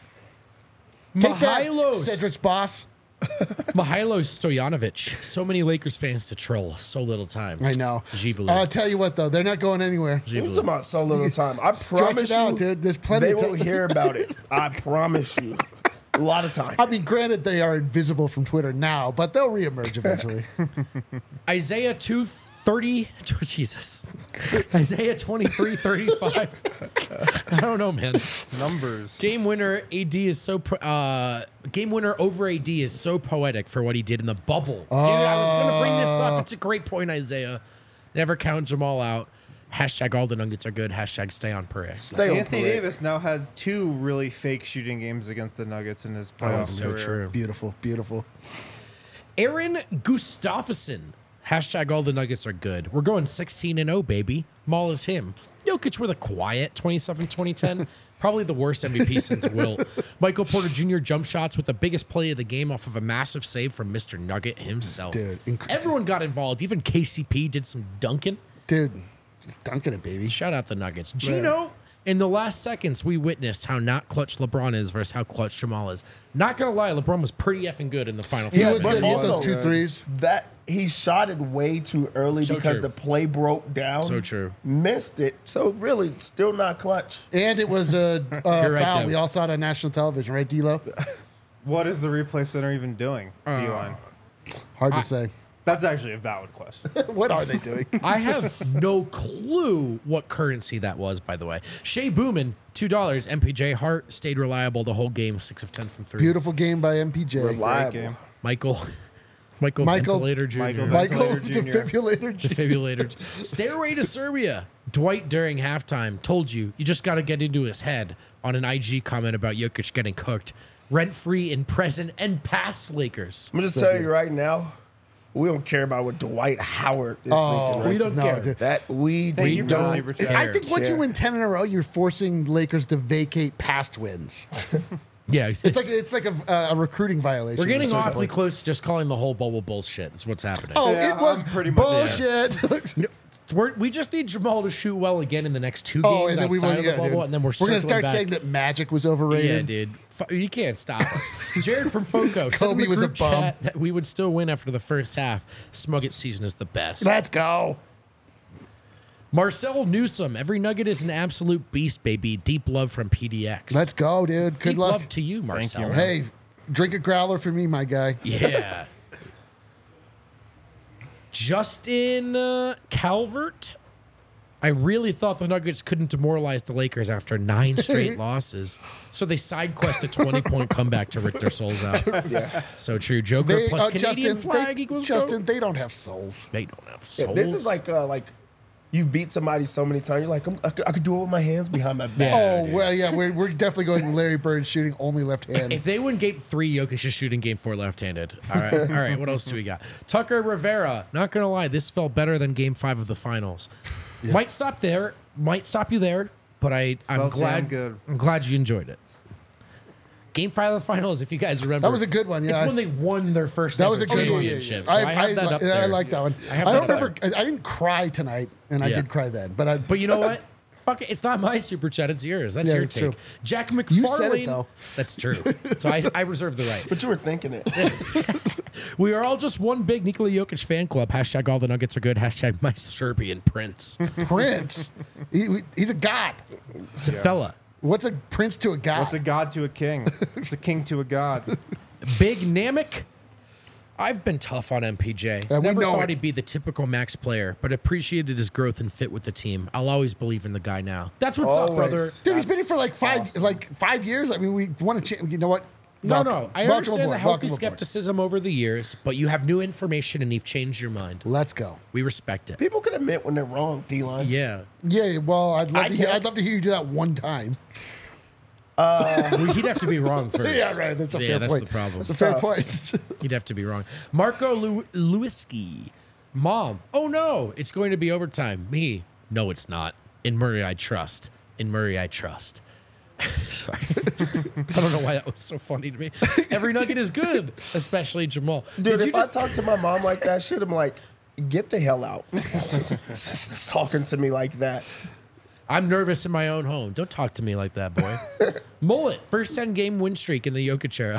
Take that, Mihailos. Cedric's boss. Mihailo Stojanovic. So many Lakers fans to troll. So little time. I know. Givulu. I'll tell you what, though, they're not going anywhere. We're talking about so little time. I Stretch promise it out, you, dude. There's plenty they of will time. hear about it. I promise you. A lot of time. I mean, granted, they are invisible from Twitter now, but they'll reemerge eventually. Isaiah two thirty. Jesus. Isaiah twenty-three thirty-five. I don't know, man. Numbers. Game winner A D is so pro- uh game winner over A D is so poetic for what he did in the bubble. Dude, I was gonna bring this up. It's a great point, Isaiah. Never count Jamal out. Hashtag all the Nuggets are good. Hashtag stay on parade. Stay on Anthony parade. Davis now has two really fake shooting games against the Nuggets in his playoff Oh, so career. true. Beautiful, beautiful. Aaron Gustafsson. Hashtag all the Nuggets are good. We're going sixteen and oh, baby. Maul is him. Jokic with a quiet twenty-seven twenty ten. Probably the worst M V P since Wilt. Michael Porter Junior jump shots with the biggest play of the game off of a massive save from Mister Nugget himself. Dude, inc- Everyone got involved. Even K C P did some dunking. Dude, just dunking it, baby. Shout out the Nuggets. Gino, in the last seconds, we witnessed how not clutch LeBron is versus how clutch Jamal is. Not going to lie, LeBron was pretty effing good in the final He five was but good. He hit those also- two threes. That he shot it way too early So because true. the play broke down. So true. Missed it. So really, still not clutch. And it was a uh, You're right, foul. Dev. we all saw it on national television, right, D-Lo? What is the replay center even doing? D-line. Hard to say. That's actually a valid question. What are they doing? I have no clue what currency that was, by the way. Shea Boomin, two dollars. M P J Hart stayed reliable the whole game, six of ten from three. Beautiful game by M P J. Reliable. game. Michael, Michael, Michael- Ventilator Junior Michael Michael, Ventilator Junior defibrillator. Defibrillator. Stairway to Serbia. Dwight during halftime told you, you just got to get into his head on an I G comment about Jokic getting cooked. Rent free in present and past Lakers. I'm gonna just tell you right now, We don't care about what Dwight Howard is Oh, thinking. Right? We don't no, care. dude. That we Thank We you for the don't super chat. care. I think once you Care. win ten in a row, you're forcing Lakers to vacate past wins. Yeah, It's like it's like a, a recruiting violation. we're getting at a certain awfully point. close to just calling the whole bubble bullshit. That's what's happening. Oh, Yeah, it was I'm pretty much- bullshit. We're, we just need Jamal to shoot well again in the next two games Oh, and then we outside will, of the yeah, bubble, dude. and then we're we're gonna circling start back. saying that Magic was Yeah, overrated. dude. Fu- You can't stop us. Jared from Foco said in Kobe the was a group bum. chat that we would still win after the first half. Smugget season is the best. Let's go. Marcel Newsom, every nugget is an absolute beast, baby. Deep love from P D X. Let's go, dude. Good Deep luck. love to you, Marcel. you. Hey, drink a growler for me, my guy. Yeah. Justin uh, Calvert. I really thought the Nuggets couldn't demoralize the Lakers after nine straight losses. So they side quest a twenty-point comeback to rip their souls out. Yeah. So true. Joker They, plus uh, Canadian Justin, flag they, equals Justin, goat. they don't have souls. They don't have Yeah, souls. this is like uh, like you've beat somebody so many times. You're like, I'm, I, could, I could do it with my hands behind my back. Yeah. Oh, well, yeah, we're, we're definitely going Larry Bird shooting only left hand. If they win game three, Jokic is shooting game four left-handed. All right. All right. What else do we got? Tucker Rivera. Not going to lie, this felt better than game five of the finals. Might stop there. Might stop you there, but I, I'm Felt glad damn good. I'm glad you enjoyed it. Game five of the finals, if you guys remember. That was a good one, yeah. It's when they won their first That was a ever good one. championship. So I, I, have I, that li- up there. I like that one. I I, have don't that up remember. I didn't cry tonight, and I Yeah. did cry then. But I. But you know what? Fuck it. It's not my super chat. It's yours. That's Yeah, your it's take. true. Jack McFarlane. You said it, though. That's true. So I, I reserve the right. But you were thinking it. We are all just one big Nikola Jokic fan club. Hashtag all the Nuggets are good. Hashtag my Serbian prince. Prince. He, he's a god. It's a fella. What's a prince to a god? What's a god to a king? It's a king to a god. Big Namek. I've been tough on M P J. Yeah, we Never know thought it. he'd be the typical max player, but appreciated his growth and fit with the team. I'll always believe in the guy now. That's what's up, Always. brother. Dude, he's been here That's for like five, awesome. like five years. I mean, we want to change. You know what? No, Welcome- no. I welcome understand aboard, the healthy welcome aboard. skepticism over the years, but you have new information and you've changed your mind. Let's go. We respect it. People can admit when they're wrong, D-line. Yeah. Yeah, well, I'd love I to. Hear, can't- I'd love to hear you do that one time. Well, he'd have to be wrong first. Yeah, right. That's a Yeah, fair that's point. the problem. That's a fair Tough. point. He'd have to be wrong. Marco Lew- Lewinsky. Mom. Oh, no. It's going to be overtime. Me. No, it's not. In Murray, I trust. In Murray, I trust. Sorry. I don't know why that was so funny to me. Every nugget is good, especially Jamal. Dude, Did if you I just- talk to my mom like that, shit, I'm like, get the hell out. Talking to me like that. I'm nervous in my own home. Don't talk to me like that, boy. Mullet, first ten game win streak in the Jokic era.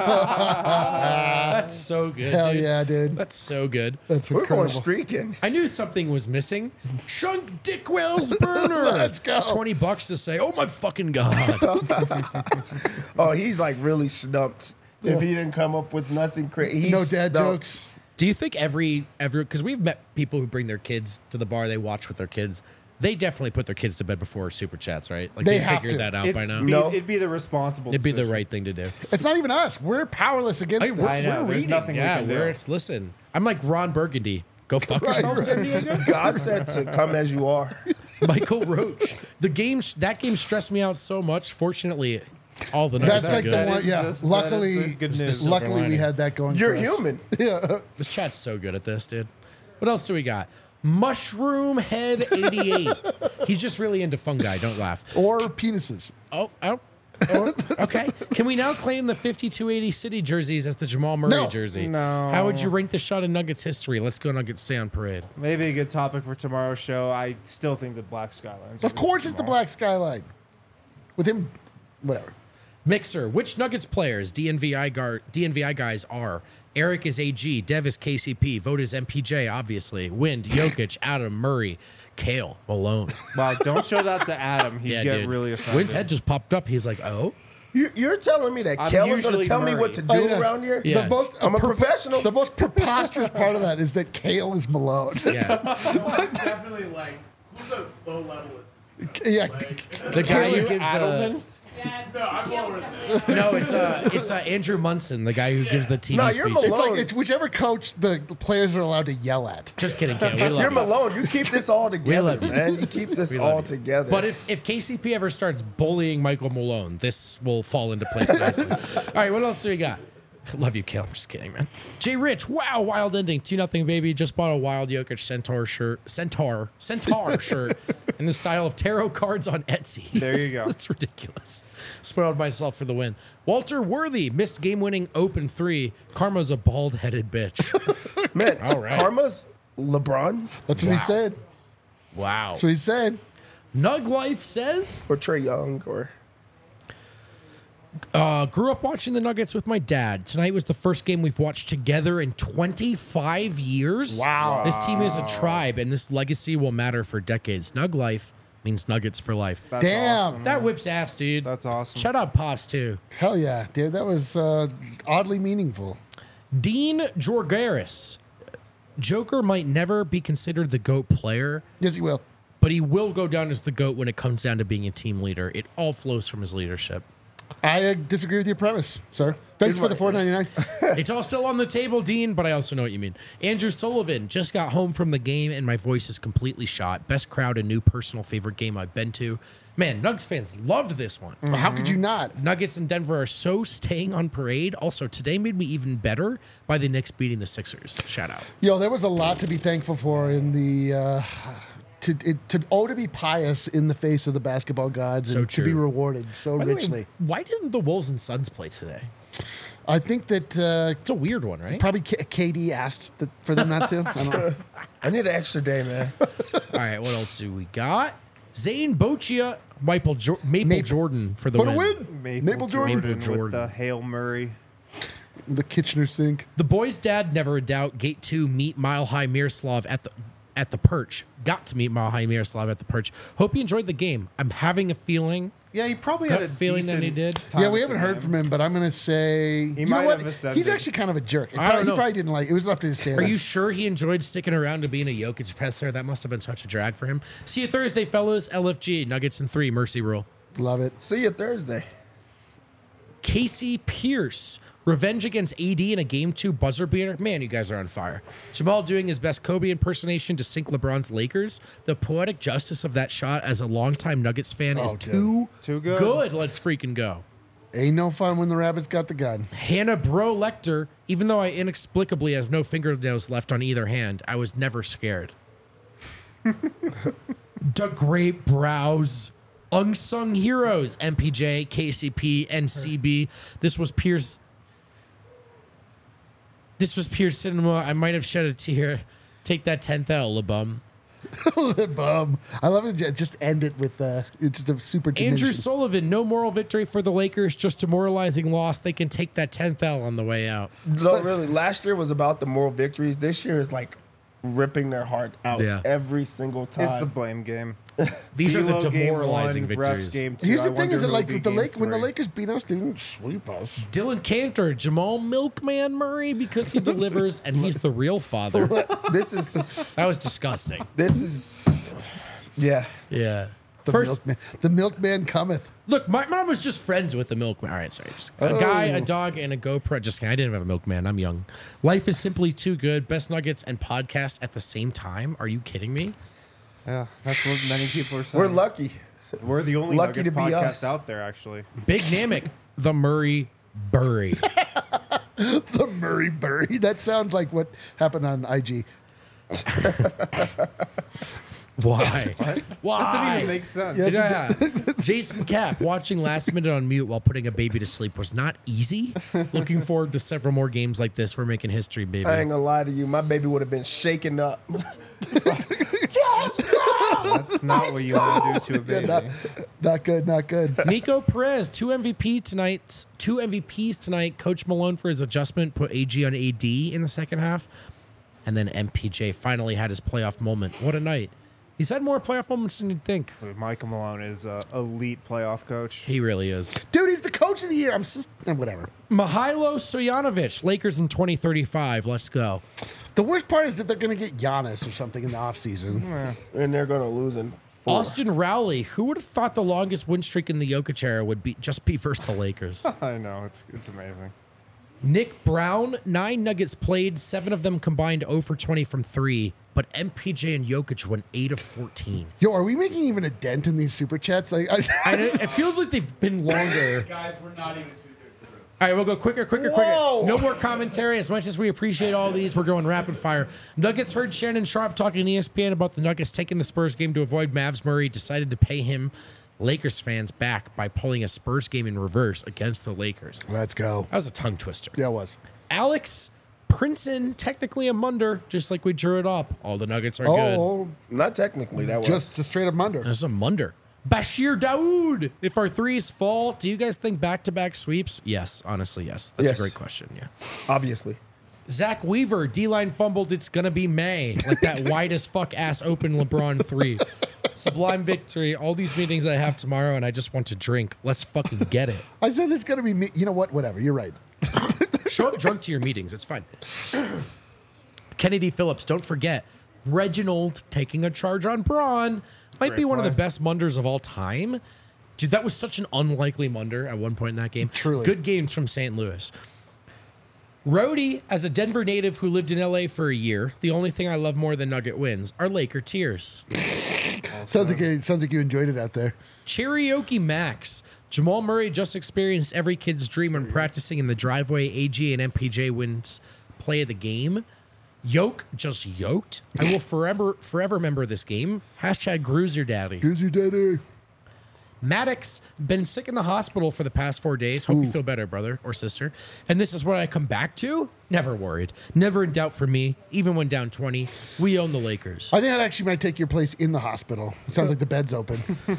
That's so good. Hell dude. yeah, dude. That's so good. That's We're incredible. going streaking. I knew something was missing. Chunk Dick Wells Burner. Let's go. twenty bucks to say, oh my fucking God. Oh, he's like really stumped. If he didn't come up with nothing crazy. No dad jokes. Do you think every, every, because we've met people who bring their kids to the bar, they watch with their kids. They definitely put their kids to bed before super chats, right? Like They they, have figured to. that out It'd by now. be, No. it'd be the responsible. It'd be the decision. right thing to do. It's not even us. We're powerless against I, this. we're, I know, we're there's reading. nothing we yeah, can do. we're, it's, listen, I'm like Ron Burgundy. Go fuck Right, yourself, right. San Diego. God said to come as you are. Michael Roach. The game, that game stressed me out so much. Fortunately, all the nuggets That's are like good. the That one. is- Yeah. this- that is luckily, the good This- news. this is- luckily we lining. had that going. You're for us. human. Yeah. This chat's so good at this, dude. What else do we got? Mushroom Head eighty-eight. He's just really into fungi. Don't laugh. Or penises. Oh, oh. oh, okay. Can we now claim the fifty-two eighty City jerseys as the Jamal Murray No. jersey? No. How would you rank the shot in Nuggets history? Let's go Nuggets stay on parade. Maybe a good topic for tomorrow's show. I still think the Black Skylines. Of course, it's the black skyline. With him, whatever. Mixer. Which Nuggets players D N V I guard, D N V I guys are? Eric is A G. Dev is K C P. Vote is M P J, obviously. Wind, Jokic, Adam, Murray, Kale, Malone. Wow, don't show that to Adam. He'd Yeah, get dude. really offended. Wind's head just popped up. He's like, oh. You, you're telling me that I'm Kel is going to usually tell me Murray. what to do Oh, yeah. around here? Yeah. The most, I'm a professional. The most preposterous part of that is that Kale is Malone. Yeah. Definitely like, who's a low level is yeah. The guy who gives the. Adelman? Yeah, No, I'm Gail's lower than definitely- No, it's uh, it's uh, Andrew Munson, the guy who gives the T V No, you're speeches. It's Malone. like it's whichever coach the players are allowed to yell at. Just kidding, Kale. We love You're you. Malone. You keep this all together, love you. man. You keep this We love all you. together. But if, if K C P ever starts bullying Michael Malone, this will fall into place nicely. All right, what else do we got? Love you, Kale. I'm just kidding, man. Jay Rich, wow, wild ending. two nothing, baby. Just bought a wild Jokic Centaur shirt. Centaur. Centaur shirt in the style of tarot cards on Etsy. There you go. That's ridiculous. Spoiled myself for the win. Walter Worthy missed game-winning open three. Karma's a bald-headed bitch. Man, All right. Karma's LeBron That's what he said. Wow. That's what he said. Nug Life says, or Trey Young or uh, grew up watching the Nuggets with my dad. Tonight was the first game we've watched together in twenty-five years. Wow. This team is a tribe, and this legacy will matter for decades. Nug Life means Nuggets for life. That's Damn. awesome, That man. whips ass, dude. That's awesome. Shout out Pops, too. Hell yeah, dude. That was uh, oddly meaningful. Dean Jorgaris. Joker might never be considered the GOAT player, Yes, he will. but he will go down as the GOAT when it comes down to being a team leader. It all flows from his leadership. I uh, disagree with your premise, sir. Thanks Here's for the my- four ninety-nine. It's all still on the table, Dean, but I also know what you mean. Andrew Sullivan just got home from the game, and my voice is completely shot. Best crowd and new personal favorite game I've been to. Man, Nuggets fans loved this one. Well, how could you not? Nuggets in Denver are so staying on parade. Also, today made me even better by the Knicks beating the Sixers. Shout out. Yo, there was a lot to be thankful for in the uh, to it, to oh to be pious in the face of the basketball gods So and to be true. rewarded so By the way, richly. why didn't the Wolves and Suns play today? I think that uh, It's a weird one, right? probably K- KD asked that for them not to. I don't know. I need an extra day, man. All right, what else do we got? Zane Boccia, Maple, jo- Maple, Maple. Jordan for the For the win. win, Maple, Maple Jordan. Jordan, Maple with Jordan. the Hail Murray. The Kitchener sink. The boys' dad, never a doubt. Gate two, meet Mile High Miroslav at the at the Perch. Got to meet Mile High Miroslav at the Perch. Hope you enjoyed the game. I'm having a feeling. Yeah, he probably Gut had a feeling that he decent did. time Yeah, we at the haven't heard game. from him, but I'm gonna say you might know what? have ascended. He's actually kind of a jerk. It I probably, don't know. He probably didn't like. It was up to his Are standards. you sure he enjoyed sticking around to being a Jokic presser? That must have been such a drag for him. See you Thursday, fellas. L F G, Nuggets in three, Mercy Rule. Love it. See you Thursday. Casey Pierce, revenge against A D in a game two buzzer beater. Man, you guys are on fire. Jamal doing his best Kobe impersonation to sink LeBron's Lakers. The poetic justice of that shot as a longtime Nuggets fan is Oh, dude. too, Too good. good. Let's freaking go. Ain't no fun when the rabbits got the gun. Hannah Bro Lecter, even though I inexplicably have no fingernails left on either hand, I was never scared. The Great Brows. Unsung Heroes, M P J, K C P, and C B. This was Pierce. This was Pierce Cinema. I might have shed a tear. Take that tenth L, LeBum. Bum. I love it. Just end it with uh, it's just a super. Andrew diminishing- Sullivan, no moral victory for the Lakers, just demoralizing loss. They can take that tenth L on the way out. No, really. Last year was about the moral victories. This year is like ripping their heart out Yeah. every single time. It's the blame game. These are the D'Lo game demoralizing one, victories. Refs game two. Here's I the thing: wonder is that who'll like be with the game Lake when the three. Lakers beat us, they didn't sweep us. Dylan Cantor, Jamal Milkman Murray, because he delivers and he's the real father. This is That was disgusting. this is yeah. Yeah. The First, milkman, the milkman cometh. look, my mom was just friends with the milkman. All right, sorry. Just a guy, a dog, and a GoPro. Just kidding. I didn't have a milkman. I'm young. Life is simply too good. Best nuggets and podcast at the same time. Are you kidding me? Yeah, that's what many people are saying. We're lucky. We're the only lucky Nuggets to be podcast us. out there, actually. Big Namek, the Murray Burry. The Murray Burry. That sounds like what happened on I G. Why? Why? That didn't even make sense. Yes, Yeah. Jason Cap watching Last Minute on mute while putting a baby to sleep was not easy. Looking forward to several more games like this. We're making history, baby. I ain't gonna lie to you. My baby would have been shaken up. That's not what you want to do to a baby. Not, not good. Not good. Nico Perez, two M V P tonight. Two M V Ps tonight. Coach Malone for his adjustment put A G on A D in the second half, and then M P J finally had his playoff moment. What a night! He's had more playoff moments than you'd think. Michael Malone is an elite playoff coach. He really is. Dude, he's the coach of the year. I'm just eh, whatever. Mihailo Stojanovic, Lakers in twenty thirty-five. Let's go. The worst part is that they're going to get Giannis or something in the offseason. And they're gonna lose in four. Austin Rowley. Who would have thought the longest win streak in the Jokic era would be just be versus the Lakers? I know, it's it's amazing. Nick Brown, nine Nuggets played, seven of them combined zero for twenty from three, but M P J and Jokic went eight of fourteen. Yo, are we making even a dent in these super chats? Like, I, And it, it feels like they've been longer. Guys, we're not even two thirds through. All right, we'll go quicker, quicker, Whoa. quicker. No more commentary. As much as we appreciate all these, we're going rapid fire. Nuggets heard Shannon Sharp talking to E S P N about the Nuggets taking the Spurs game to avoid Mavs. Murray decided to pay him, Lakers fans, back by pulling a Spurs game in reverse against the Lakers. Let's go. That was a tongue twister. Yeah, it was. Alex Princeton, technically a Munder, just like we drew it up. All the Nuggets are good. Oh, Not technically. That was just a straight up Munder. There's a Munder. Bashir Daoud. If our threes fall, do you guys think back-to-back sweeps? Yes, honestly, yes. That's Yes. a great question, yeah. obviously. Zach Weaver, D-line fumbled, it's gonna be May. Like that wide as fuck ass open LeBron three. Sublime victory. All these meetings I have tomorrow and I just want to drink. Let's fucking get it. I said it's going to be me. You know what? Whatever. You're right. Show up drunk to your meetings. It's fine. Kennedy Phillips, don't forget. Reginald taking a charge on Braun. Might Great be one of the play. best Munders of all time. Dude, that was such an unlikely Munder at one point in that game. Truly. Good games from Saint Louis. Rhodey, as a Denver native who lived in L A for a year, the only thing I love more than Nugget wins are Laker tears. Sounds like you, sounds like you enjoyed it out there. Cherokee Max. Jamal Murray just experienced every kid's dream when practicing in the driveway. A G and M P J wins play of the game. Yoke just yoked. I will forever forever remember this game. Hashtag Gruiser Daddy. Here's your daddy. Maddox been sick in the hospital for the past four days. Hope you feel better, brother or sister. And this is what I come back to. Never worried. Never in doubt for me. Even when down twenty, we own the Lakers. I think that actually might take your place in the hospital. It sounds like the bed's open.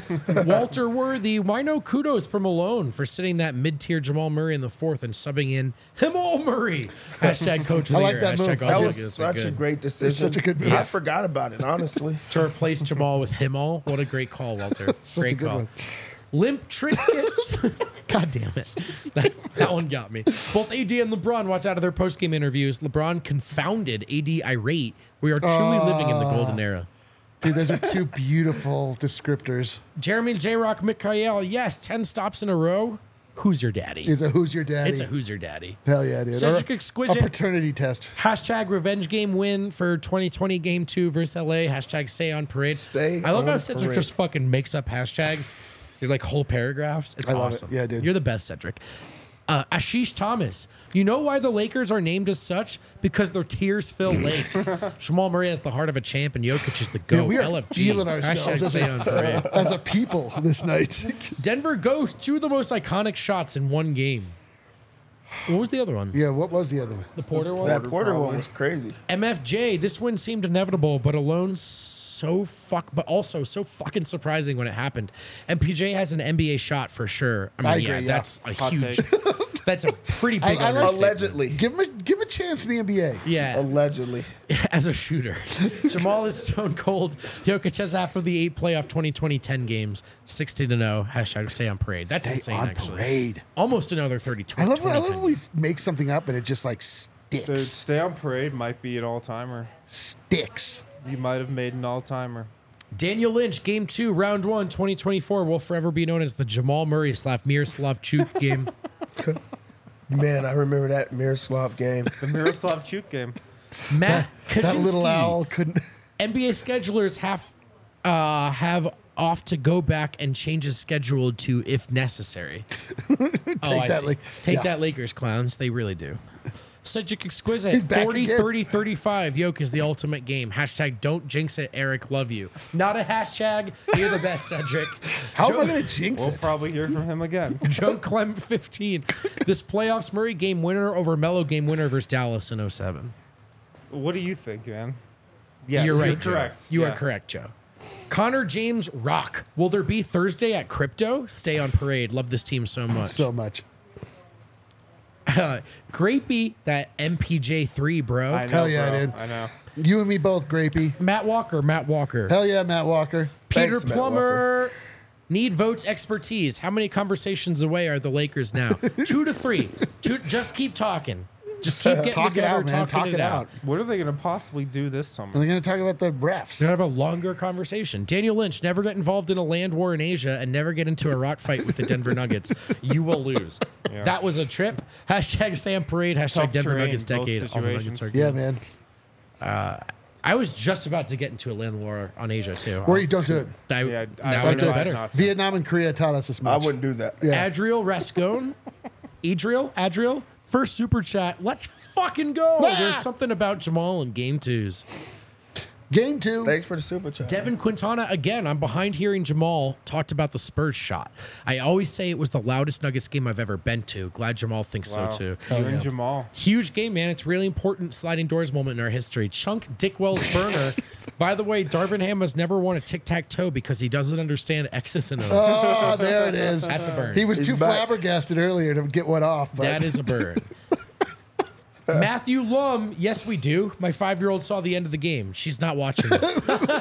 Walter Worthy, why no kudos for Malone for sitting that mid-tier Jamal Murray in the fourth and subbing in Jamal Murray. Hashtag coach of I the like year. that Hashtag move. all That the was Nuggets are such a good. great decision. such a good move. I forgot about it, honestly. To replace Jamal with Himal. What a great call, Walter. Such a Great good call. one. Limp Triscuits. God damn it. That, that one got me. Both A D and LeBron watch out of their post-game interviews. LeBron confounded A D irate. We are truly living in the golden era. Dude, those are two beautiful descriptors. Jeremy J-Rock Mikhail, yes, ten stops in a row. Who's your daddy? Is a who's your daddy? It's a who's your daddy. Hell yeah, dude. Cedric Or Exquisite. A paternity test. Hashtag revenge game win for twenty twenty game two versus L A. Hashtag stay on parade. Stay I love on how Cedric parade. just fucking makes up hashtags. They're like whole paragraphs. It's I love it. awesome. Yeah, dude. You're the best, Cedric. Uh, Ashish Thomas. You know why the Lakers are named as such? Because their tears fill lakes. Jamal Murray has the heart of a champ, and Jokic is the Yeah, GOAT. we are L F G. feeling ourselves Hashtag as stay a- on parade. As a people this night. Denver goes two of the most iconic shots in one game. What was the other one? Yeah, what was the other one? The Porter one? That Porter one was crazy. M F J, this win seemed inevitable, but alone so fuck, but also so fucking surprising when it happened. M P J has an N B A shot for sure. I mean, I yeah, agree, yeah. that's a Hot huge, take. that's a pretty I- big I like- understatement. Allegedly. Give him a give him a chance in the N B A. Yeah, Allegedly. as a shooter. Jamal is stone cold. Jokic has half of the eight playoff twenty twenty ten games, sixteen to oh. Hashtag stay on parade. That's Stay insane, on actually. parade. Almost another thirty. I love, I twenty love ten when we make something up and it just like sticks. Dude, stay on parade might be an all-timer. Sticks. You might have made an all-timer. Daniel Lynch, game two, round one, twenty twenty-four, will forever be known as the Jamal Murray slash Miroslav Chuk game. Man, I remember that Miroslav game. The Miroslav Chuk game. Matt That little Kaczynski. owl couldn't. N B A schedulers have uh, have off to go back and change his schedule to if necessary. Take oh, I that, see. like- Take yeah. that, Lakers clowns. They really do. Cedric Exquisite, He's back forty, again. thirty, thirty-five. Yoke is the ultimate game. Hashtag don't jinx it, Eric. Love you. Not a hashtag. You're the best, Cedric. How Joe- am I going to jinx We'll it? probably hear from him again. Joe Clem fifteen. This playoffs Murray game winner over Melo game winner versus Dallas in oh seven. What do you think, man? Yes, You're right. Joe. correct. You Yeah. are correct, Joe. Connor James Rock. Will there be Thursday at Crypto? Stay on parade. Love this team so much. So much. Uh, Grapey, that M P J three, bro. I know, Hell yeah, bro. dude. I know. You and me both, Grapey. Matt Walker. Matt Walker. Hell yeah, Matt Walker. Peter Thanks, Matt Plummer. Need votes expertise. How many conversations away are the Lakers now? Two to three. Two. Just keep talking. Just keep getting Talk it together, out, man. talking Talk it out. What are they going to possibly do this summer? We're going to talk about the refs. We're gonna have a longer conversation. Daniel Lynch, never get involved in a land war in Asia and never get into a rock fight with the Denver Nuggets. You will lose. Yeah. That was a trip. Hashtag Sam Parade. Hashtag Tough Denver terrain, Nuggets both decade. All the Nuggets situations. are Yeah, good. man. I was just about to get into a land war on Asia too. Or you don't do it. I, Yeah, I now I would know advise better. not to. Vietnam and Korea taught us this I much. wouldn't do that. Yeah. Adriel Rascone. Adriel, Adriel, first super chat. Let's fucking go. Ah! There's something about Jamal in game twos. Game two. Thanks for the super chat. Devin Quintana, again, I'm behind hearing Jamal talked about the Spurs shot. I always say it was the loudest Nuggets game I've ever been to. Glad Jamal thinks Wow. so too. You and Jamal. Huge game, man. It's really important sliding doors moment in our history. Chunk Dickwell's burner. By the way, Darvin Ham has never won a tic-tac-toe because he doesn't understand X's and O's. Oh, there it is. That's a burn. He was He's too back. flabbergasted earlier to get one off. But. That is a bird. Matthew Lum, yes, we do. My five-year-old saw the end of the game. She's not watching this.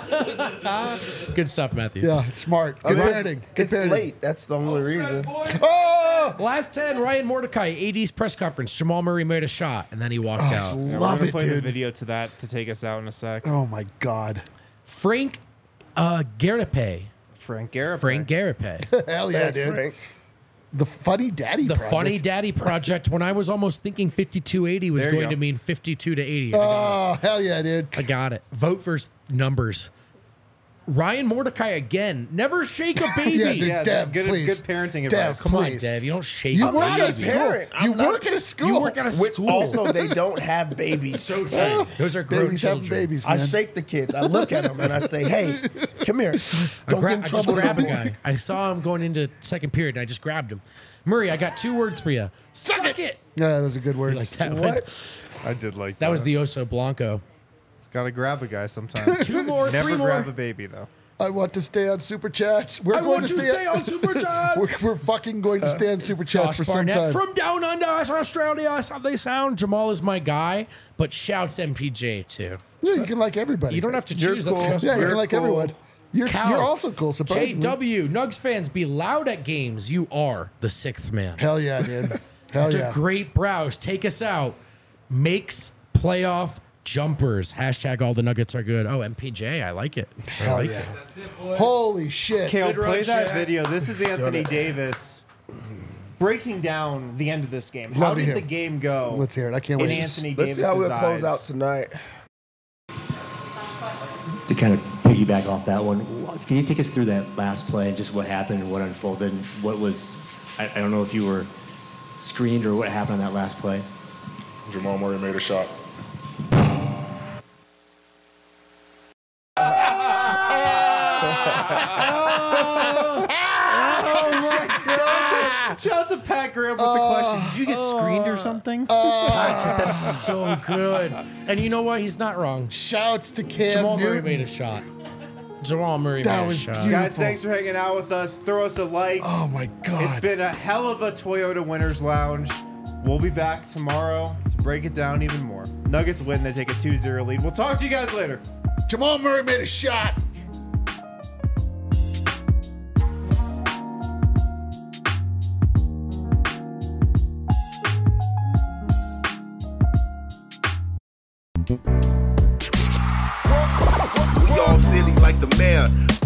Good stuff, Matthew. Yeah, it's smart. I Good mean, parenting. it's Good it's parenting. late. That's the only reason. Oh, Last ten, Ryan Mordecai, A D's press conference. Jamal Murray made a shot, and then he walked I out. Yeah, love we're gonna it, play the dude. video to that to take us out in a sec. Oh my God. Frank uh, Garape. Frank Garrett. Frank Garape. Hell yeah, Thanks, dude. Frank. The Funny Daddy The Project. Funny Daddy Project. When I was almost thinking fifty-two eighty was There you going go. to mean fifty-two to eighty. I got Oh, hell yeah, dude. it. I got it. Vote for s- numbers. Ryan Mordecai again. Never shake a baby. Yeah, dude. Yeah, Dev, good, please. good parenting Dev, advice. Come on, please. Dev. You don't shake You a work baby. at a school. Parent. You I'm not- work at a school. You work at a Which school. also they don't have babies. so true. Those are grown babies having children. babies, I man. shake the kids. I look at them and I say, "Hey, come here. I, Don't gra- get in I just trouble." grabbed a no more." guy. I saw him going into second period, and I just grabbed him. Murray, I got two words for you. Suck it. Yeah, those are good words. Like that. one? What? I did like that. That was the Oso Blanco. Gotta grab a guy sometimes. Two more, Never three more. grab a baby though. I want to stay on Super Chats. We're I going want to to stay on Super Chats. We're, we're fucking going to stay on Super Chats Josh for some Barnett time. from down under Australia. That's how they sound. Jamal is my guy, but shouts M P J too. yeah, you can like everybody. You don't have to You're choose. cool. That's just Yeah, you You're can like cool. everyone. You're, Cal. you're also cool, J surprisingly. W. Nugs fans, be loud at games. You are the sixth man. Hell yeah, dude. Hell To yeah. Great Browse, take us out. Makes playoff jumpers. Hashtag all the Nuggets are good. Oh, M P J, I like it. I Hell like yeah. it. Holy shit. Kale, Good run, play that Shaq. video. This is Anthony Davis breaking down the end of this game. Love How to did hear the it. game go? Let's hear it. I can't in wait. Anthony Let's see how Davis's we'll close eyes? out tonight. To kind of piggyback off that one, can you take us through that last play and just what happened and what unfolded? And what was, I, I don't know if you were screened or what happened on that last play. Jamal Murray made a shot. Shout out to Pat Graham with the question. Did you get screened or something? Patrick, that's so good. And you know what? He's not wrong. Shouts to Cam Jamal Murray Newton. made a shot. Jamal Murray That made a was shot. beautiful. Guys, thanks for hanging out with us. Throw us a like. Oh my It's God. been a hell of a Toyota Winners Lounge. We'll be back tomorrow to break it down even more. Nuggets win. They take a two zero lead. We'll talk to you guys later. Jamal Murray made a shot. We all silly like the mayor.